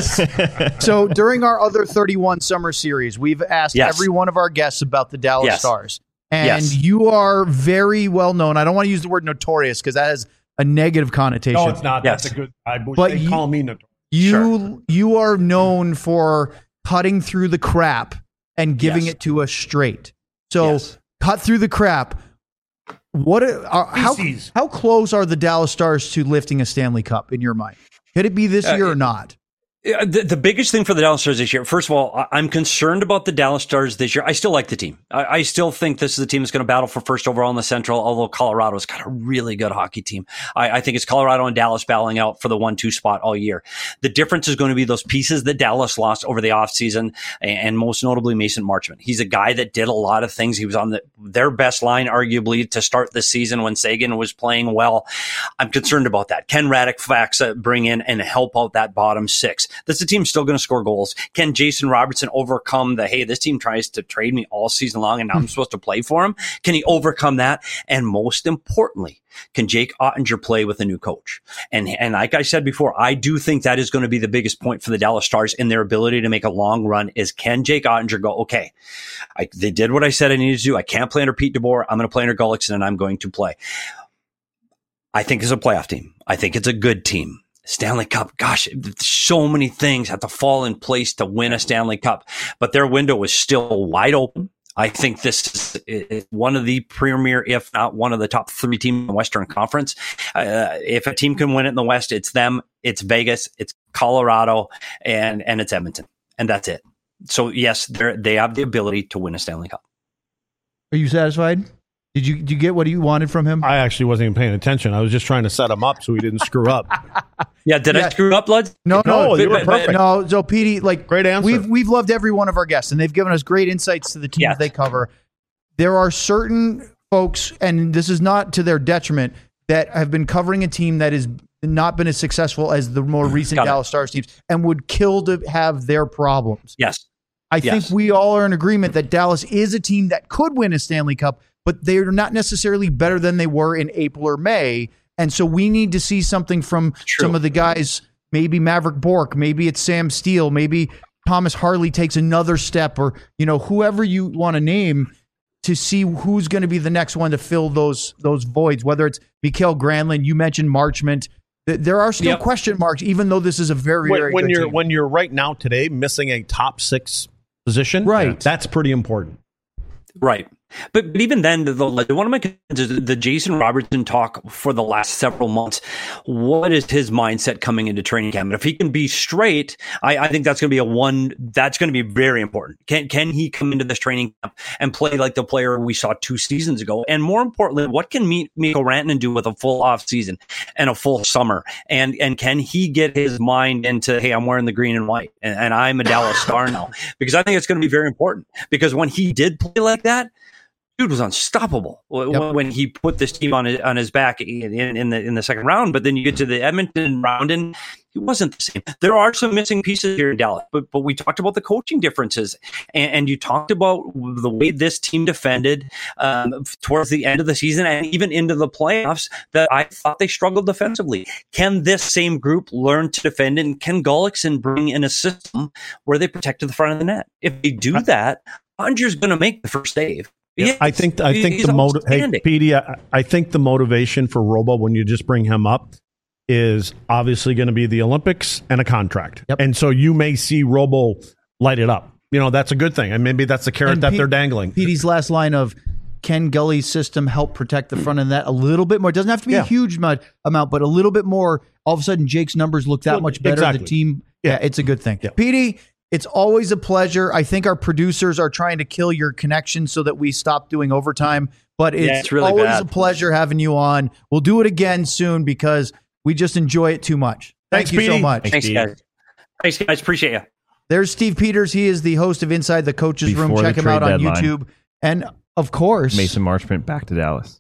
Yes. So during our other thirty-one summer series, we've asked Yes. every one of our guests about the Dallas Yes. Stars. And Yes. you are very well known. I don't want to use the word notorious because that has a negative connotation. no, it's not. Yes. That's a good. I wish But they you- call me notorious. You Sure. you are known for cutting through the crap and giving Yes. it to us straight. So Yes. cut through the crap. What are, are how Feces. how close are the Dallas Stars to lifting a Stanley Cup in your mind? Could it be this Uh, year or not? Yeah, The, the biggest thing for the Dallas Stars this year, first of all, I- I'm concerned about the Dallas Stars this year. I still like the team. I, I still think this is a team that's going to battle for first overall in the Central, although Colorado's got a really good hockey team. I, I think it's Colorado and Dallas battling out for the one two spot all year. The difference is going to be those pieces that Dallas lost over the offseason, and, and most notably Mason Marchment. He's a guy that did a lot of things. He was on the, their best line, arguably, to start this season when Sagan was playing well. I'm concerned about that. Can Radek Faksa bring in and help out that bottom six? This the team's still going to score goals. Can Jason Robertson overcome the, hey, this team tries to trade me all season long and now I'm supposed to play for him? Can he overcome that? And most importantly, can Jake Ottinger play with a new coach? And and like I said before, I do think that is going to be the biggest point for the Dallas Stars in their ability to make a long run is can Jake Ottinger go, okay, I, they did what I said I needed to do. I can't play under Pete DeBoer. I'm going to play under Gullickson and I'm going to play. I think it's a playoff team. I think it's a good team. Stanley Cup, gosh, so many things have to fall in place to win a Stanley Cup, but their window is still wide open. I think this is one of the premier, if not one of the top three teams in the Western Conference. Uh, if a team can win it in the West, it's them, it's Vegas, it's Colorado, and and it's Edmonton, and that's it. So yes, they they have the ability to win a Stanley Cup. Are you satisfied? Did you did you get what you wanted from him? I actually wasn't even paying attention. I was just trying to set him up so he didn't screw up. Yeah, did Yeah. I screw up, Lud? No, no, No, you were but- but- perfect. no. So, Petey, like, Great answer. We've we've loved every one of our guests, and they've given us great insights to the teams Yes. they cover. There are certain folks, and this is not to their detriment, that have been covering a team that has not been as successful as the more recent Got it. Dallas Stars teams, and would kill to have their problems. Yes. I Yes. think we all are in agreement that Dallas is a team that could win a Stanley Cup, but they're not necessarily better than they were in April or May. And so we need to see something from True. some of the guys, maybe Maverick Bourque, maybe it's Sam Steele, maybe Thomas Harley takes another step, or, you know, whoever you want to name, to see who's going to be the next one to fill those those voids, whether it's Mikael Granlund, you mentioned Marchment. Th- There are still Yep. question marks, even though this is a very, when, very when good you're team. when you're right now today missing a top six position, Right. That's pretty important. Right. But, but even then, the, the, one of my concerns is the Jason Robertson talk for the last several months. What is his mindset coming into training camp? And if he can be straight, I, I think that's going to be a one, that's going to be very important. Can, can he come into this training camp and play like the player we saw two seasons ago? And more importantly, what can Me- Mikko Rantanen do with a full off season and a full summer? And, and can he get his mind into, hey, I'm wearing the green and white and, and I'm a Dallas Star now? Because I think it's going to be very important, because when he did play like that, dude was unstoppable when, Yep. when he put this team on his, on his back in, in the in the second round. But then you get to the Edmonton round, and he wasn't the same. There are some missing pieces here in Dallas, but but we talked about the coaching differences, and, and you talked about the way this team defended um, towards the end of the season and even into the playoffs. That I thought they struggled defensively. Can this same group learn to defend, and can Gullickson bring in a system where they protect to the front of the net? If they do that, Ottinger's going to make the first save. Yeah, I think I think the motiv- hey, Petey, I, I think the motivation for Robo when you just bring him up is obviously going to be the Olympics and a contract. Yep. And so you may see Robo light it up. You know, that's a good thing. And maybe that's the carrot And that Pete- they're dangling. Petey's last line of, can Gully's system help protect the front of that a little bit more? It doesn't have to be Yeah. a huge amount, amount, but a little bit more. All of a sudden, Jake's numbers look that Well, much better. exactly. The team, yeah, Yeah. it's a good thing. Yeah. Petey, it's always a pleasure. I think our producers are trying to kill your connection so that we stop doing overtime, but it's, Yeah, it's really always bad. a pleasure having you on. We'll do it again soon because we just enjoy it too much. Thank Thanks, you so Petey. much. Thanks, guys. Thanks, guys. Appreciate you. There's Steve Peters. He is the host of Inside the Coaches Room. Before Check the him out trade on deadline. YouTube. And of course, Mason Marchment back to Dallas.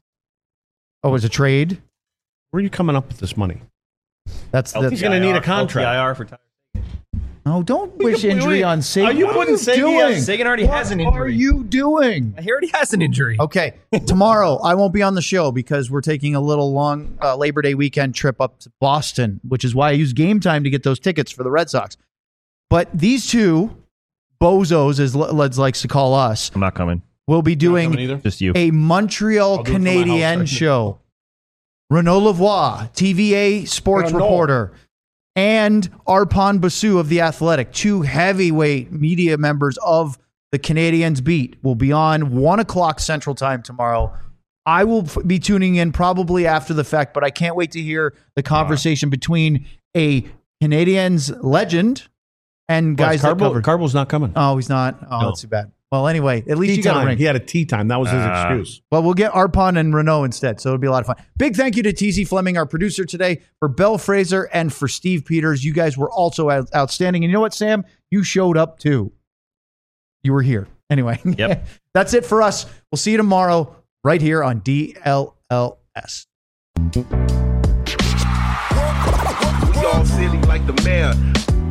oh, it's a trade. Where are you coming up with this money? That's the. He's going to need a contract. L T I R for Tyler. No, don't wish wait, injury wait. on Sagan. Are you What putting Sagan- doing? Sagan already What has an are injury. you doing? He already has an injury. Okay, tomorrow I won't be on the show because we're taking a little long uh, Labor Day weekend trip up to Boston, which is why I use Game Time to get those tickets for the Red Sox. But these two bozos, as Leds likes to call us, I'm not coming. will be Coming doing either? Just you. a Montreal I'll do it from my house. Canadian show. Renaud Lavoie, T V A sports Renaud. reporter, and Arpon Basu of The Athletic, two heavyweight media members of the Canadiens beat, will be on one o'clock Central Time tomorrow. I will f- be tuning in probably after the fact, but I can't wait to hear the conversation between a Canadiens legend and guys that Carbo, covered. Carbo's not coming. Oh, he's not. Oh, No. that's too bad. Well, anyway, at least Tea you got a time. ring. He had a tea time. That was his Ah. excuse. Well, we'll get Arpon and Renault instead, so it'll be a lot of fun. Big thank you to T Z Fleming, our producer today, for Belle Fraser and for Steve Peters. You guys were also out- outstanding. And you know what, Sam? You showed up too. You were here. Anyway, Yep. that's it for us. We'll see you tomorrow right here on D L L S. We all silly like the mayor.